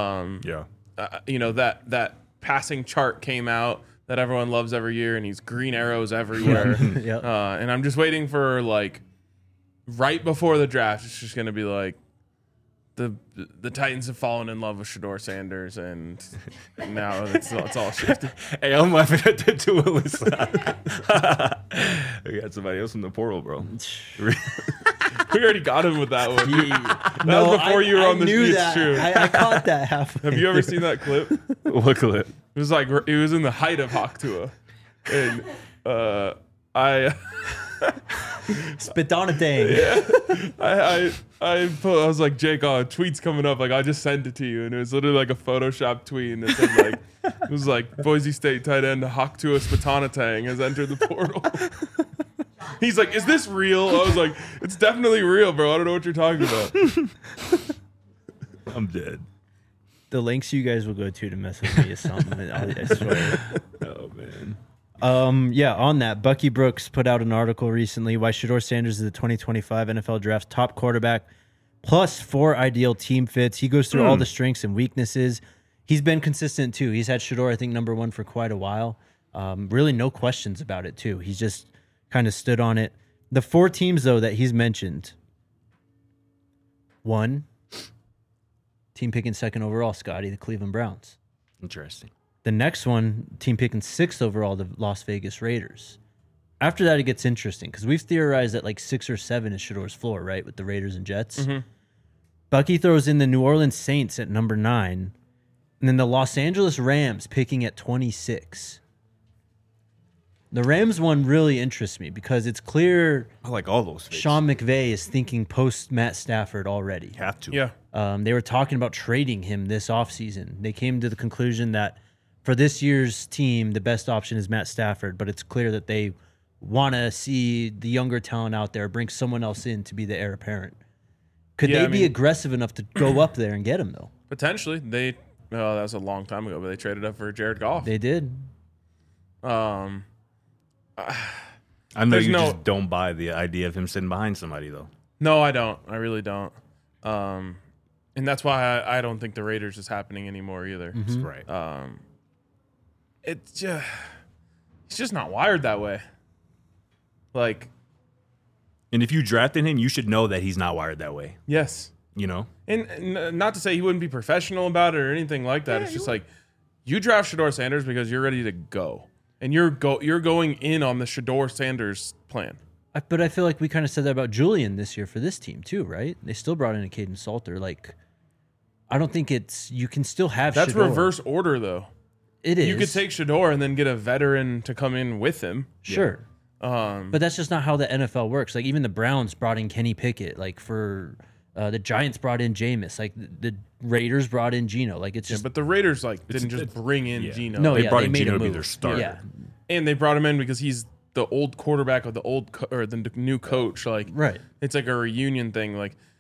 That passing chart came out that everyone loves every year, and he's green arrows everywhere. Yep. And I'm just waiting for right before the draft, it's just gonna be the Titans have fallen in love with Shedeur Sanders, and now it's all shifted. Hey, I'm laughing at that too, Alyssa. We got somebody else in the portal, bro. We already got him with that one. That was before you were on the knew It's that. true. I caught that halfway. Have you ever seen that clip? What clip? It was it was in the height of Hawk Tua, and Spit on a thing. I was like, Jake, tweet's coming up. I just sent it to you, and it was literally a Photoshop tweet, and it said it was Boise State tight end Hawk Tua Spatanatang has entered the portal. He's like, is this real? I was like, it's definitely real, bro. I don't know what you're talking about. I'm dead. The lengths you guys will go to mess with me is something. I swear. Oh man. On that, Bucky Brooks put out an article recently why Shedeur Sanders is the 2025 NFL Draft's top quarterback, plus 4 ideal team fits. He goes through all the strengths and weaknesses. He's been consistent too. He's had Shedeur, I think, number 1 for quite a while. Really no questions about it too. He's just kind of stood on it. The 4 teams though that he's mentioned. 1, team picking 2nd overall, Scotty, the Cleveland Browns. Interesting. The next one, team picking 6th overall, the Las Vegas Raiders. After that, it gets interesting because we've theorized that 6 or 7 is Shedeur's floor, right, with the Raiders and Jets. Mm-hmm. Bucky throws in the New Orleans Saints at number 9, and then the Los Angeles Rams picking at 26. The Rams one really interests me because it's clear I like all those fits. Sean McVay is thinking post Matt Stafford already. Have to. Yeah. They were talking about trading him this offseason. They came to the conclusion that for this year's team, the best option is Matt Stafford, but it's clear that they want to see the younger talent out there, bring someone else in to be the heir apparent. Could they be aggressive enough to go up there and get him, though? Potentially. That was a long time ago, but they traded up for Jared Goff. They did. I know you just don't buy the idea of him sitting behind somebody, though. No, I don't. I really don't. And that's why I don't think the Raiders is happening anymore either. That's right. It's just, he's just not wired that way. And if you drafted him, you should know that he's not wired that way. Yes. You know? And not to say he wouldn't be professional about it or anything like that. It's just you draft Shedeur Sanders because you're ready to go. And you're going in on the Shedeur Sanders plan. But I feel like we kind of said that about Julian this year for this team too, right? They still brought in a Caden Salter. I don't think you can still have That's Shedeur. reverse order, though. It is. You could take Shedeur and then get a veteran to come in with him. Sure. But that's just not how the NFL works. Even the Browns brought in Kenny Pickett. For the Giants brought in Jameis. The Raiders brought in Geno. It's just. But the Raiders didn't just bring in Geno. No, they brought in made Geno a to be move. their starter. Yeah. And they brought him in because he's the old quarterback of the the new coach. Right. It's a reunion thing.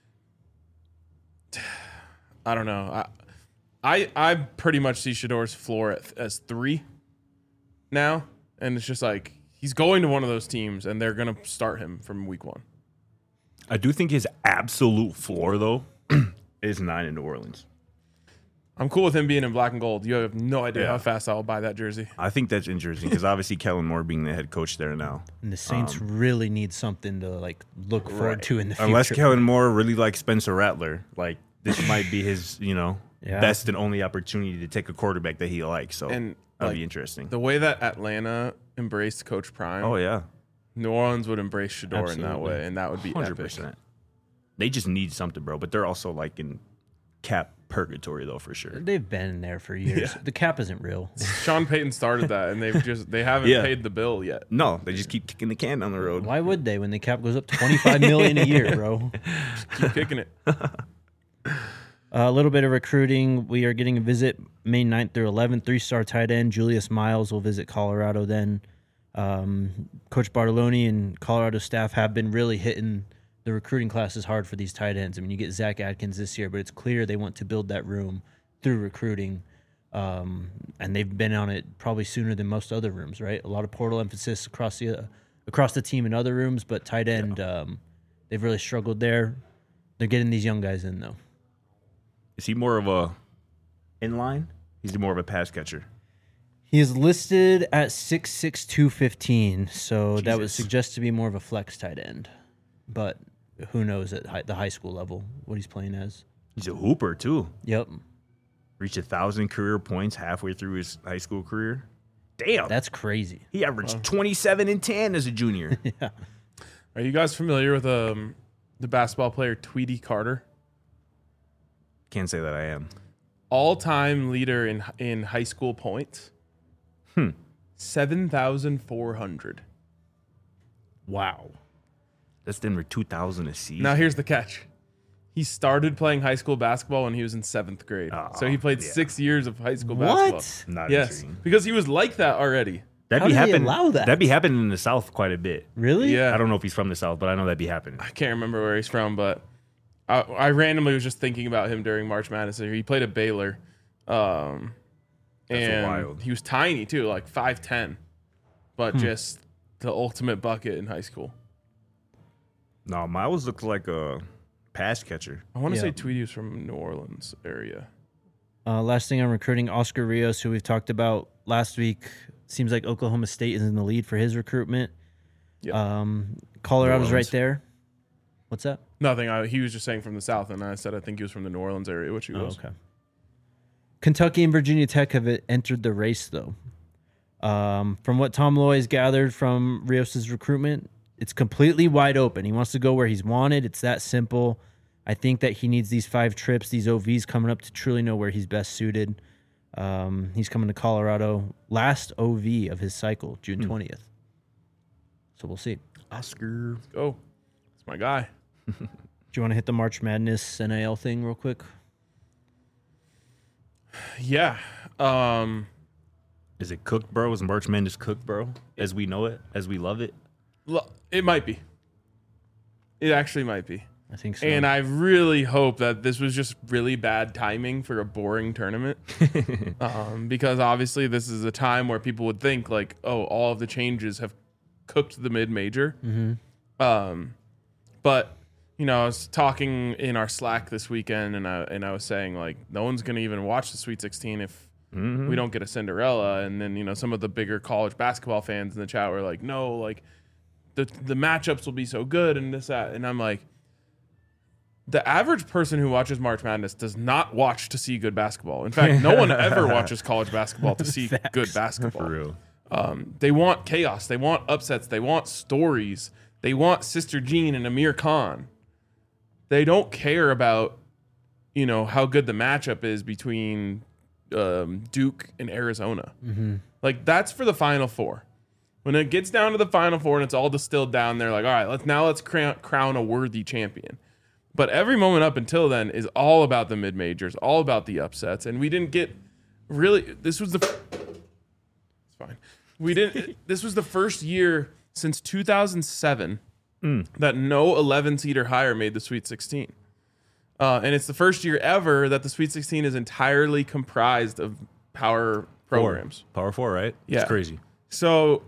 I don't know. I pretty much see Shedeur's floor as 3 now, and it's just he's going to one of those teams, and they're gonna start him from week 1. I do think his absolute floor, though, is 9 in New Orleans. I'm cool with him being in black and gold. You have no idea how fast I'll buy that jersey. I think that's interesting because obviously Kellen Moore being the head coach there now. And the Saints really need something to look forward to in the future. Unless Kellen Moore really likes Spencer Rattler, this might be his, best and only opportunity to take a quarterback that he likes. So that'd be interesting. The way that Atlanta embraced Coach Prime. Oh yeah, New Orleans would embrace Shedeur in that way, and that would be 100%. Epic. They just need something, bro. But they're also in cap purgatory, though, for sure. They've been there for years. Yeah. The cap isn't real. Sean Payton started that, and they haven't paid the bill yet. No, they just keep kicking the can down the road. Why would they when the cap goes up $25 million a year, bro? Just keep kicking it. A little bit of recruiting. We are getting a visit May 9th through 11th. 3-star tight end Julius Miles will visit Colorado then. Coach Bartoloni and Colorado staff have been really hitting the recruiting class is hard for these tight ends. I mean, you get Zach Adkins this year, but it's clear they want to build that room through recruiting. And they've been on it probably sooner than most other rooms, right? A lot of portal emphasis across the team in other rooms, but tight end, they've really struggled there. They're getting these young guys in, though. Is he more of a inline? He's more of a pass catcher. He is listed at 6'6", 215, so that would suggest to be more of a flex tight end. But who knows at the high school level what he's playing as. He's a hooper, too. Yep. Reached 1,000 career points halfway through his high school career. Damn. That's crazy. He averaged 27 and 10 as a junior. Yeah. Are you guys familiar with the basketball player Tweety Carter? Can't say that I am. All-time leader in high school points. 7,400. Wow. That's Denver 2,000 a season. Now here's the catch. He started playing high school basketball when he was in 7th grade. So he played 6 years of high school basketball. Not Yes, intriguing. because he was like that already. That'd How be do they happen- allow that? That'd be happening in the South quite a bit. Really? Yeah. I don't know if he's from the South, but I know that'd be happening. I can't remember where he's from, but I randomly was just thinking about him during March Madness. He played at Baylor. And wild. he was tiny too, like 5'10", but just the ultimate bucket in high school. No, Miles looked like a pass catcher. I want to Yeah. say Tweety was from New Orleans area. Last thing on recruiting, Oscar Rios, who we've talked about last week. Seems like Oklahoma State is in the lead for his recruitment. Yeah. Colorado's New right Orleans. there. What's that? Nothing. He was just saying from the South, and I said I think he was from the New Orleans area, which he was. Okay. Kentucky and Virginia Tech have entered the race, though. From what Tom Loy has gathered from Rios' recruitment, it's completely wide open. He wants to go where he's wanted. It's that simple. I think that he needs these 5 trips, these OVs coming up to truly know where he's best suited. He's coming to Colorado. Last OV of his cycle, June 20th. So we'll see. Oscar. Let's go. It's my guy. Do you want to hit the March Madness NIL thing real quick? Yeah. Is it cooked, bro? Is March Madness cooked, bro? As we know it? As we love it? It might be. It actually might be. I think so. And I really hope that this was just really bad timing for a boring tournament. Because obviously this is a time where people would think like, oh, all of the changes have cooked the mid-major. But, you know, I was talking in our Slack this weekend and I was saying like, no one's going to even watch the Sweet 16 if we don't get a Cinderella. And then, you know, some of the bigger college basketball fans in the chat were like, no, like the matchups will be so good and this, that. And I'm like, the average person who watches March Madness does not watch to see good basketball. In fact, no one ever watches college basketball to see good basketball. For real. They want chaos. They want upsets. They want stories. They want Sister Jean and Amir Khan. They don't care about, you know, how good the matchup is between Duke and Arizona. Like, that's for the Final Four. When it gets down to the Final Four and it's all distilled down, they're like, all right, let's crown a worthy champion. But every moment up until then is all about the mid-majors, all about the upsets. And we didn't get really, this was the, it's fine. This was the first year since 2007 that no 11 seed or higher made the Sweet 16. And it's the first year ever that the Sweet 16 is entirely comprised of power programs. Power 4, right? Yeah. It's crazy. So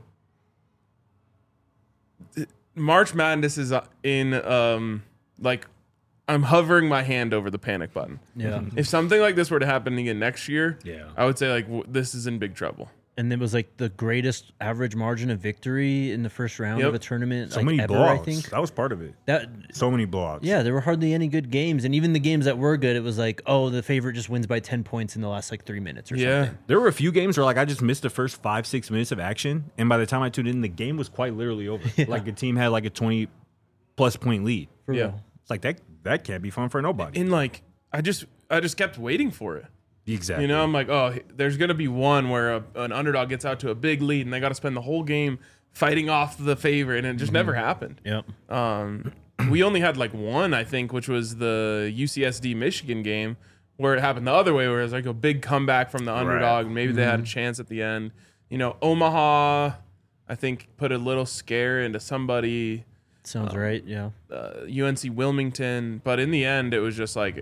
March Madness is in, like, I'm hovering my hand over the panic button. Yeah. If something like this were to happen again next year, Yeah. I would say, like, this is in big trouble. And it was like the greatest average margin of victory in the first round of a tournament. So like many ever, blowouts. I think. That was part of it. That So many blowouts. yeah, there were hardly any good games. And even the games that were good, it was like, oh, the favorite just wins by 10 points in the last like 3 minutes or Yeah. something. There were a few games where like I just missed the first 5-6 minutes of action, and by the time I tuned in, the game was quite literally over. Like the team had like a 20+ point lead. For Yeah. real. It's like that can't be fun for nobody. And, like, I just kept waiting for it. Exactly. You know, I'm like, oh, there's going to be one where an underdog gets out to a big lead and they got to spend the whole game fighting off the favorite, and it just never happened. Yep. We only had like one, I think, which was the UCSD Michigan game, where it happened the other way, where it was like a big comeback from the underdog, and maybe they had a chance at the end. You know, Omaha, I think, put a little scare into somebody. Sounds right. Yeah. UNC Wilmington. But in the end, it was just like,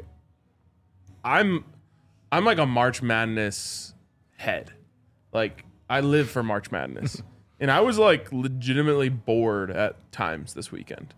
I'm like a March Madness head. Like, I live for March Madness. And I was like legitimately bored at times this weekend.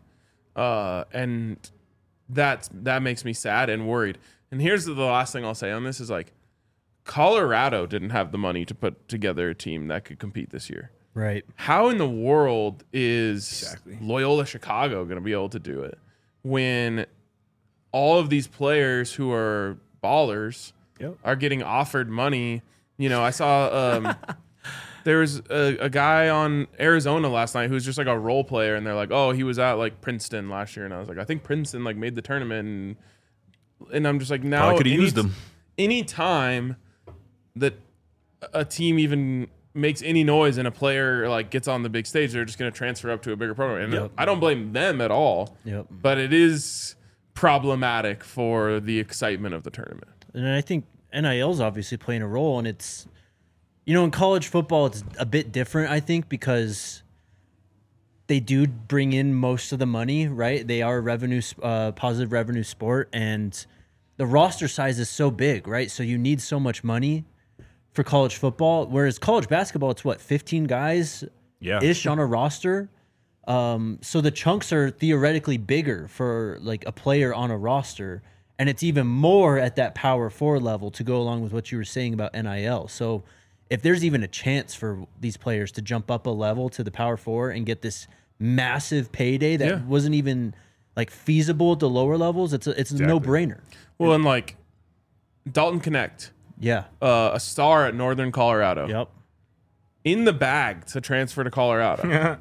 And that makes me sad and worried. And here's the last thing I'll say on this is like, Colorado didn't have the money to put together a team that could compete this year. Right. How in the world is Loyola Chicago going to be able to do it when all of these players who are ballers are getting offered money? You know, I saw there was a guy on Arizona last night who's just like a role player, and they're like, oh, he was at like Princeton last year, and I was like, I think Princeton like made the tournament, and I'm just like, now I could have used them. Any time that a team even makes any noise and a player like gets on the big stage, they're just going to transfer up to a bigger program. And I don't blame them at all. But it is problematic for the excitement of the tournament. And I think NIL is obviously playing a role, and it's, you know, in college football, it's a bit different, I think, because they do bring in most of the money, right? They are a positive revenue sport, and the roster size is so big, right? So you need so much money for college football, whereas college basketball, it's what, 15 guys ish on a roster. So the chunks are theoretically bigger for like a player on a roster, and it's even more at that power 4 level to go along with what you were saying about NIL. So if there's even a chance for these players to jump up a level to the power 4 and get this massive payday that wasn't even like feasible at the lower levels, it's a no-brainer. Well, and like Dalton Connect, a star at Northern Colorado, in the bag to transfer to Colorado,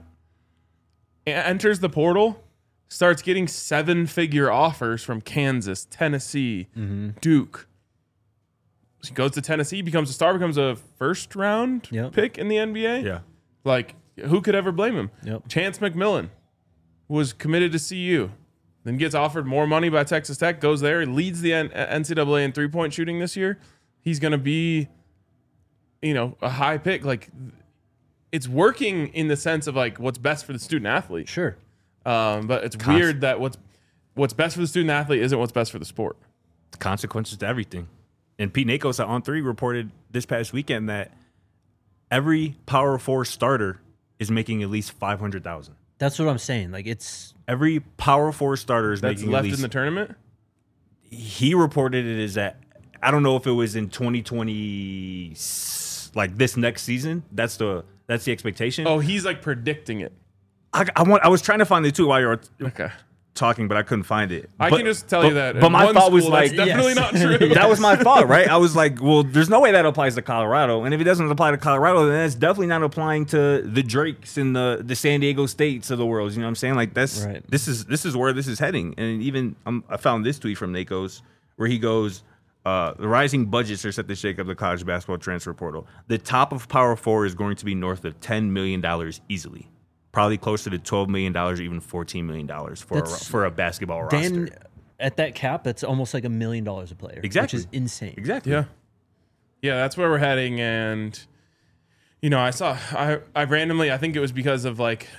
enters the portal, starts getting 7-figure offers from Kansas, Tennessee, Duke. He goes to Tennessee, becomes a star, becomes a first-round pick in the NBA. Yeah. Like, who could ever blame him? Chance McMillan was committed to CU, then gets offered more money by Texas Tech, goes there, leads the NCAA in three-point shooting this year. He's going to be, you know, a high pick. Like, it's working in the sense of, like, what's best for the student-athlete. Sure. But it's weird that what's best for the student-athlete isn't what's best for the sport. Consequences to everything. And Pete Nakos at On3 reported this past weekend that every Power 4 starter is making at least $500,000. That's what I'm saying. Like, it's every Power 4 starter is that's making left at least in the tournament. He reported it as that. I don't know if it was in 2020, like this next season. That's the expectation. Oh, he's like predicting it. I was trying to find it too while you were okay. talking, but I couldn't find it. I can just tell you that. But my thought was like, definitely not true. That was my thought, right? I was like, well, there's no way that applies to Colorado, and if it doesn't apply to Colorado, then that's definitely not applying to the Drakes and the San Diego States of the world. You know what I'm saying? Like this is where this is heading. And even I found this tweet from Nakos where he goes, the rising budgets are set to shake up the college basketball transfer portal. The top of Power 4 is going to be north of $10 million easily. Probably closer to $12 million or even $14 million for a basketball roster. At that cap, that's almost like $1 million a player. Exactly. Which is insane. Exactly. Yeah. Yeah, that's where we're heading. And, you know, I randomly, I think it was because of like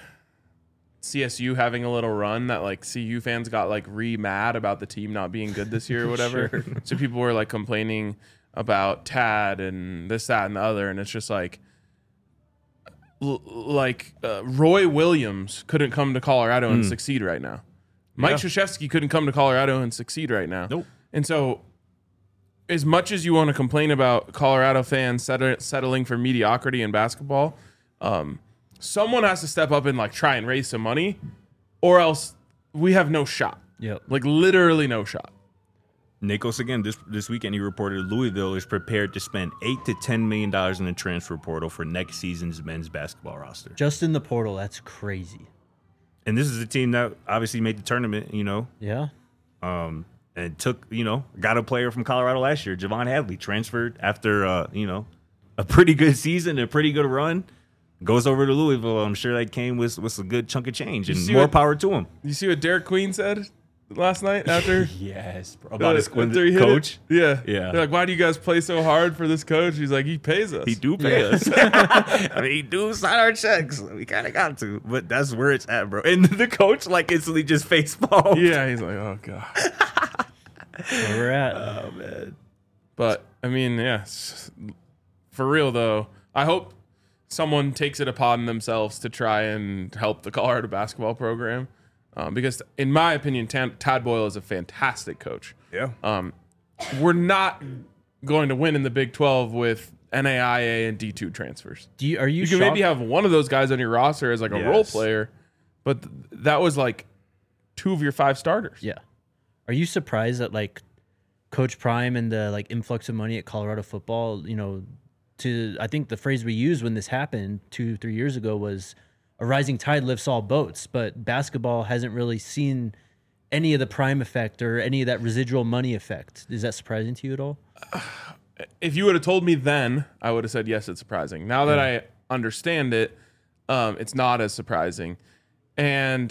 CSU having a little run that like CU fans got like mad about the team not being good this year or whatever. Sure. So people were like complaining about Tad and this, that, and the other. And it's just like, Roy Williams couldn't come to Colorado and succeed right now. Mike Krzyzewski couldn't come to Colorado and succeed right now. Nope. And so as much as you want to complain about Colorado fans settling for mediocrity in basketball, someone has to step up and like try and raise some money, or else we have no shot. Yep. Like literally no shot. Nakos again this weekend he reported Louisville is prepared to spend $8 to $10 million in the transfer portal for next season's men's basketball roster. Just in the portal, that's crazy. And this is a team that obviously made the tournament, you know. Yeah. And got a player from Colorado last year, Javon Hadley, transferred after a pretty good season, a pretty good run. Goes over to Louisville. I'm sure that came with a good chunk of change, and more power to him. You see what Derek Queen said? last night after? Yes, bro. About his after he hit coach. it? Yeah. Yeah. They're like, why do you guys play so hard for this coach? He's like, he pays us. He do pay us. I mean, he do sign our checks. We kind of got to, but that's where it's at, bro. And the coach like instantly just face palmed. Yeah, he's like, oh god. Where we're at. Oh man. But I mean, yeah, for real though, I hope someone takes it upon themselves to try and help the Colorado basketball program, because in my opinion, Tad Boyle is a fantastic coach. Yeah. We're not going to win in the Big 12 with NAIA and D2 transfers. Are you You can shocked? maybe have one of those guys on your roster as like a role Yes. player, but that was like 2 of your 5 starters. Yeah. Are you surprised that like Coach Prime and the like influx of money at Colorado football, I think the phrase we used when this happened 2-3 years ago was a rising tide lifts all boats, but basketball hasn't really seen any of the prime effect or any of that residual money effect. Is that surprising to you at all? If you would have told me then, I would have said, yes, it's surprising. Now that I understand it, it's not as surprising. And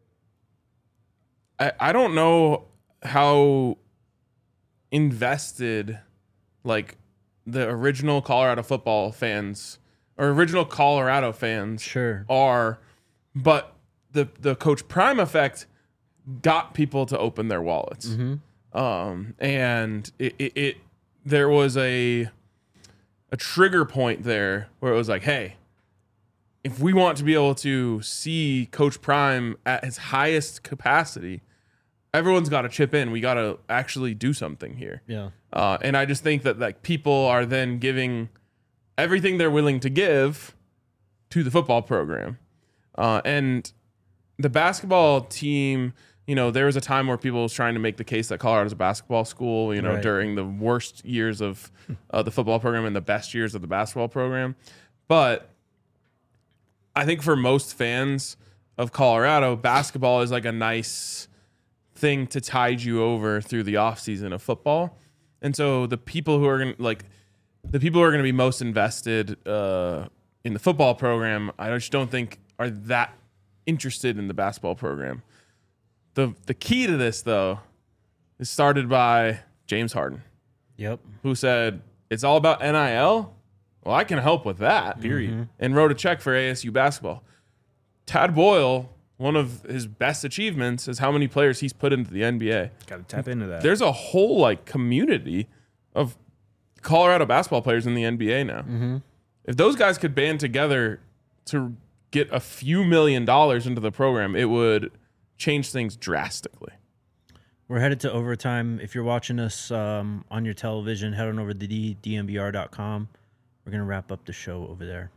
I don't know how invested like the original Colorado football fans or original Colorado fans Sure. are, but the Coach Prime effect got people to open their wallets. And it there was a trigger point there where it was like, hey, if we want to be able to see Coach Prime at his highest capacity, everyone's got to chip in. We got to actually do something here. Yeah. And I just think that like people are then giving everything they're willing to give to the football program. And the basketball team, there was a time where people was trying to make the case that Colorado's a basketball school, Right. during the worst years of the football program and the best years of the basketball program. But I think for most fans of Colorado, basketball is like a nice thing to tide you over through the offseason of football. And so the people who are going to be most invested in the football program, I just don't think are that interested in the basketball program. The key to this, though, is started by James Harden, Yep. who said, it's all about NIL. Well, I can help with that, period. And wrote a check for ASU basketball. Tad Boyle, one of his best achievements is how many players he's put into the NBA. Got to tap into that. There's a whole like community of Colorado basketball players in the NBA now. If those guys could band together to get a few $1 million into the program, it would change things drastically. We're headed to overtime. If you're watching us on your television, head on over to dnvr.com. We're going to wrap up the show over there.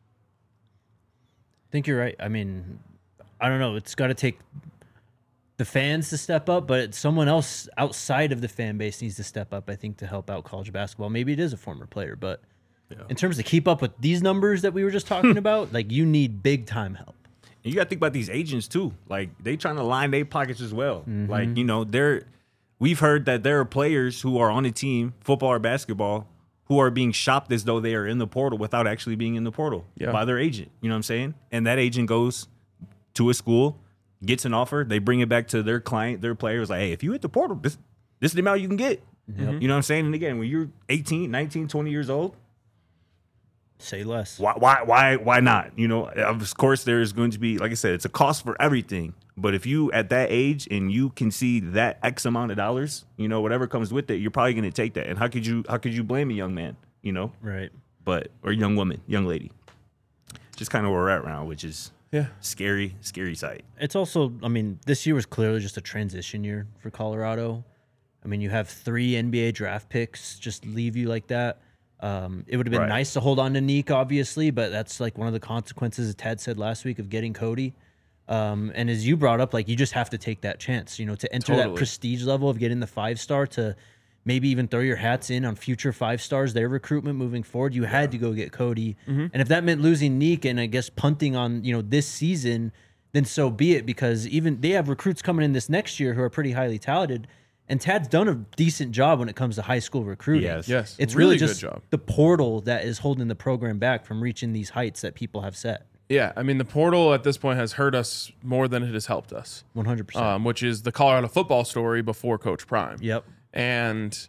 I think you're right. I mean, I don't know. It's got to take the fans to step up, but someone else outside of the fan base needs to step up, I think, to help out college basketball. Maybe it is a former player, but in terms to keep up with these numbers that we were just talking about, like you need big time help. And you got to think about these agents too. Like they trying to line their pockets as well. Like, we've heard that there are players who are on the team, football or basketball, who are being shopped as though they are in the portal without actually being in the portal by their agent. You know what I'm saying? And that agent goes to a school, gets an offer, they bring it back to their client, their players, like, hey, if you hit the portal, this is the amount you can get. You know what I'm saying? And again, when you're 18, 19, 20 years old, Say less. why not? Of course, there's going to be, like I said, it's a cost for everything. But if you at that age and you can see that X amount of dollars, whatever comes with it, you're probably going to take that. And how could you blame a young man? Right. Or young woman, young lady. Just kind of where we're at now, which is Yeah. scary sight. It's also, I mean, this year was clearly just a transition year for Colorado. I mean, you have 3 NBA draft picks just leave you like that. It would have been nice to hold on to Neek, obviously, but that's like one of the consequences, as Tad said last week, of getting Cody. And as you brought up, like you just have to take that chance, to enter that prestige level of getting the 5-star, to maybe even throw your hats in on future 5-stars, their recruitment moving forward. You had to go get Cody. And if that meant losing Neek and I guess punting on, this season, then so be it, because even they have recruits coming in this next year who are pretty highly talented. And Tad's done a decent job when it comes to high school recruiting. Yes. It's Really really good just job. the portal that is holding the program back from reaching these heights that people have set. Yeah, I mean, the portal at this point has hurt us more than it has helped us. 100%. Which is the Colorado football story before Coach Prime. Yep. And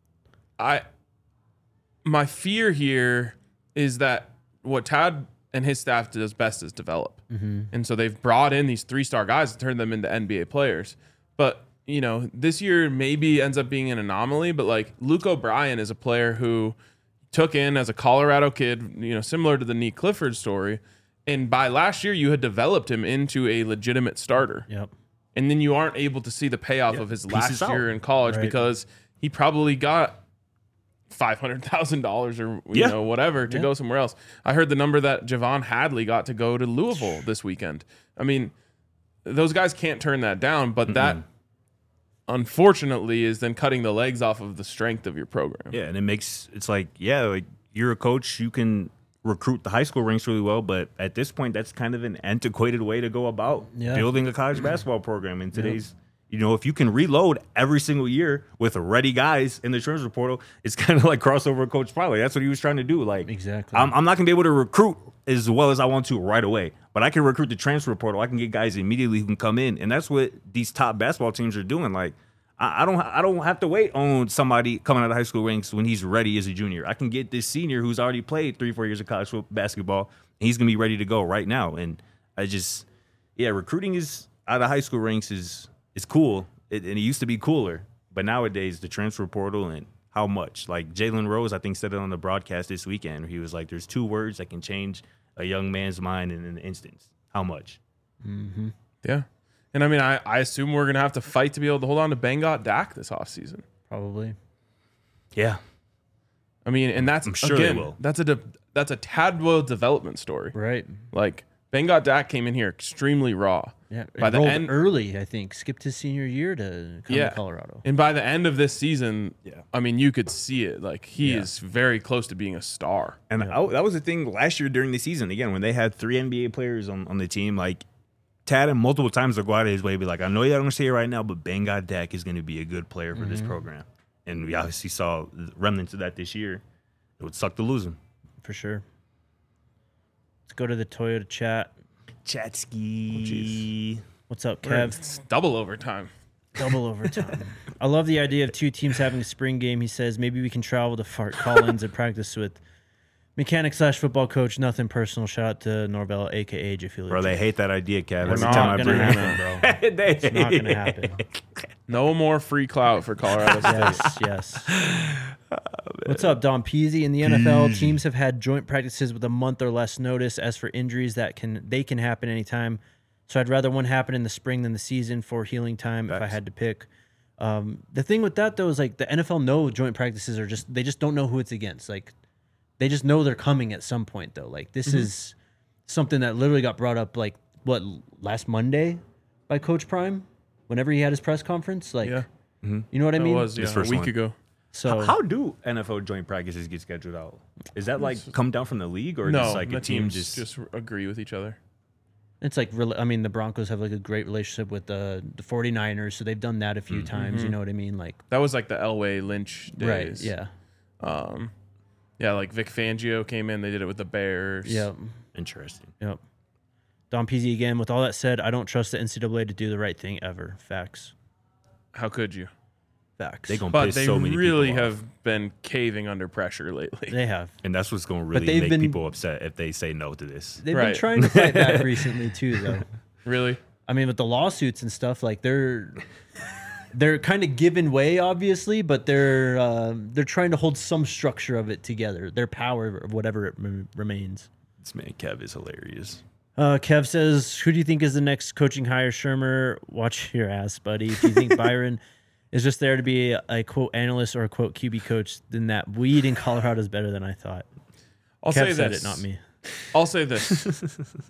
my fear here is that what Tad and his staff does best is develop. Mm-hmm. And so they've brought in these 3-star guys and turned them into NBA players. But, you know, this year maybe ends up being an anomaly, but like Luke O'Brien is a player who took in as a Colorado kid, you know, similar to the Nick Clifford story. And by last year, you had developed him into a legitimate starter. Yep. And then you aren't able to see the payoff of his last year in college because he probably got $500,000 or you know whatever to go somewhere else. I heard the number that Javon Hadley got to go to Louisville this weekend. I mean, those guys can't turn that down, but that unfortunately is then cutting the legs off of the strength of your program. Yeah, and it's like you're a coach, you can recruit the high school ranks really well, but at this point, that's kind of an antiquated way to go about building a college basketball program in today's. You know, if you can reload every single year with ready guys in the transfer portal, it's kind of like crossover Coach Prime. That's what he was trying to do. Like, exactly. I'm not going to be able to recruit as well as I want to right away, but I can recruit the transfer portal. I can get guys immediately who can come in, and that's what these top basketball teams are doing. Like, I don't have to wait on somebody coming out of high school ranks when he's ready as a junior. I can get this senior who's already played 3-4 years of college basketball, and he's going to be ready to go right now. And recruiting is out of high school ranks is cool, and it used to be cooler. But nowadays, the transfer portal and how much. Like Jalen Rose, I think, said it on the broadcast this weekend. He was like, there's 2 words that can change a young man's mind in an instance. How much? Mm-hmm. Yeah. And I mean, I assume we're going to have to fight to be able to hold on to Bengot Dak this offseason. Probably. Yeah. I mean, and that's, I'm sure they will. That's a Tadwell development story. Right. Like, Bengot Dak came in here extremely raw. Yeah. By the end, early, I think. Skipped his senior year to come to Colorado. And by the end of this season, I mean, you could see it. Like, he is very close to being a star. And that was the thing last year during the season. Again, when they had 3 NBA players on the team, like, Tad him multiple times to go out of his way, be like, I know you don't say it right now, but Bengot Dak is going to be a good player for this program. And we obviously saw remnants of that this year. It would suck to lose him. For sure. Let's go to the Toyota chat. Chatski. What's up, Kev? It's double overtime. Double overtime. I love the idea of 2 teams having a spring game. He says maybe we can travel to Fort Collins and practice with mechanic/football coach. Nothing personal. Shout out to Norvell, a.k.a. Jiffy. Bro, they hate that idea, Kev. It's Every time I bring it happen, bro. It's not going to happen. No more free clout for Colorado State. Yes. What's up, Don Peasy? In the NFL, teams have had joint practices with a month or less notice. As for injuries, they can happen anytime. So I'd rather one happen in the spring than the season for healing time if I had to pick. The thing with that, though, is like the NFL know joint practices are they just don't know who it's against. Like, they just know they're coming at some point, though. Like, this is something that literally got brought up, like, last Monday by Coach Prime whenever he had his press conference? Like, you know what I mean? It was, a week ago. So how do NFL joint practices get scheduled out? Is that, like, come down from the league? Or no, just, like, the a team teams just agree with each other. It's like, I mean, the Broncos have, like, a great relationship with the 49ers, so they've done that a few times. You know what I mean? Like, that was, like, the Elway Lynch days. Right, yeah. Yeah, like Vic Fangio came in. They did it with the Bears. Yep. Interesting. Yep. Don Peasy again. With all that said, I don't trust the NCAA to do the right thing ever. Facts. How could you? Facts. But they really have been caving under pressure lately. They have. And that's what's going to really make people upset if they say no to this. They've been trying to fight back recently, too, though. Really? I mean, with the lawsuits and stuff, like, they're kind of giving way, obviously, but they're trying to hold some structure of it together. Their power, whatever it remains. This man, Kev, is hilarious. Kev says, who do you think is the next coaching hire? Shermer, watch your ass, buddy. If you think Byron is just there to be a quote analyst or a quote QB coach, then that weed in Colorado is better than I thought. I'll Kev say said this. it, not me. I'll say this.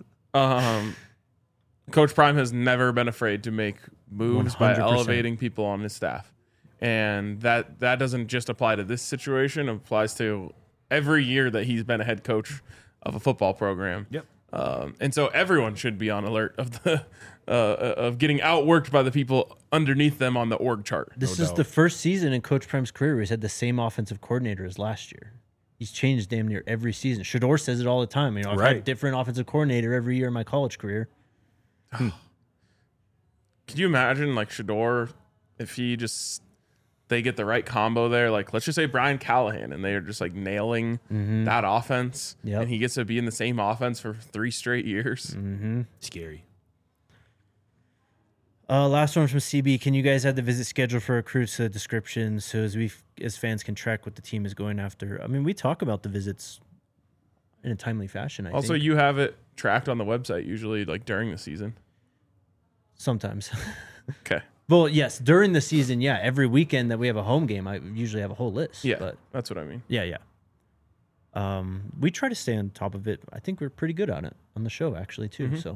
Coach Prime has never been afraid to make moves 100%. By elevating people on his staff. And that doesn't just apply to this situation. It applies to every year that he's been a head coach of a football program. Yep. And so everyone should be on alert of the of getting outworked by the people underneath them on the org chart. This is the first season in Coach Prime's career where he's had the same offensive coordinator as last year. He's changed damn near every season. Shador says it all the time. You know, I've had a different offensive coordinator every year in my college career. Could you imagine like Shador if they get the right combo there? Like, let's just say Brian Callahan and they are just like nailing that offense, and he gets to be in the same offense for 3 straight years. Scary. Last one from CB. Can you guys add the visit schedule for recruits to the description so as fans can track what the team is going after? I mean, we talk about the visits in a timely fashion. I Also, think. you have it tracked on the website usually, like during the season. Sometimes. Okay. Well, yes, during the season, yeah. Every weekend that we have a home game, I usually have a whole list. Yeah, but that's what I mean. yeah. We try to stay on top of it. I think we're pretty good on it on the show, actually, too. So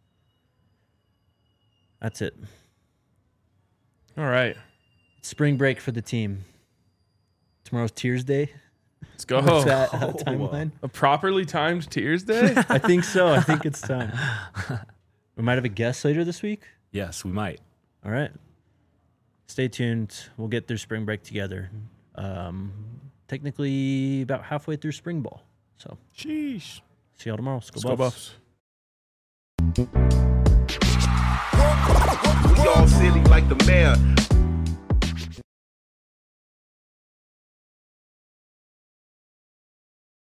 that's it. All right. Spring break for the team. Tomorrow's Tears Day. Let's go. What's that timeline? A properly timed Tears Day? I think so. I think it's time. We might have a guest later this week. Yes, we might. All right. Stay tuned. We'll get through spring break together. Technically about halfway through spring ball. So, Sheesh. see y'all tomorrow. Let's go Buffs. We all silly like the mayor.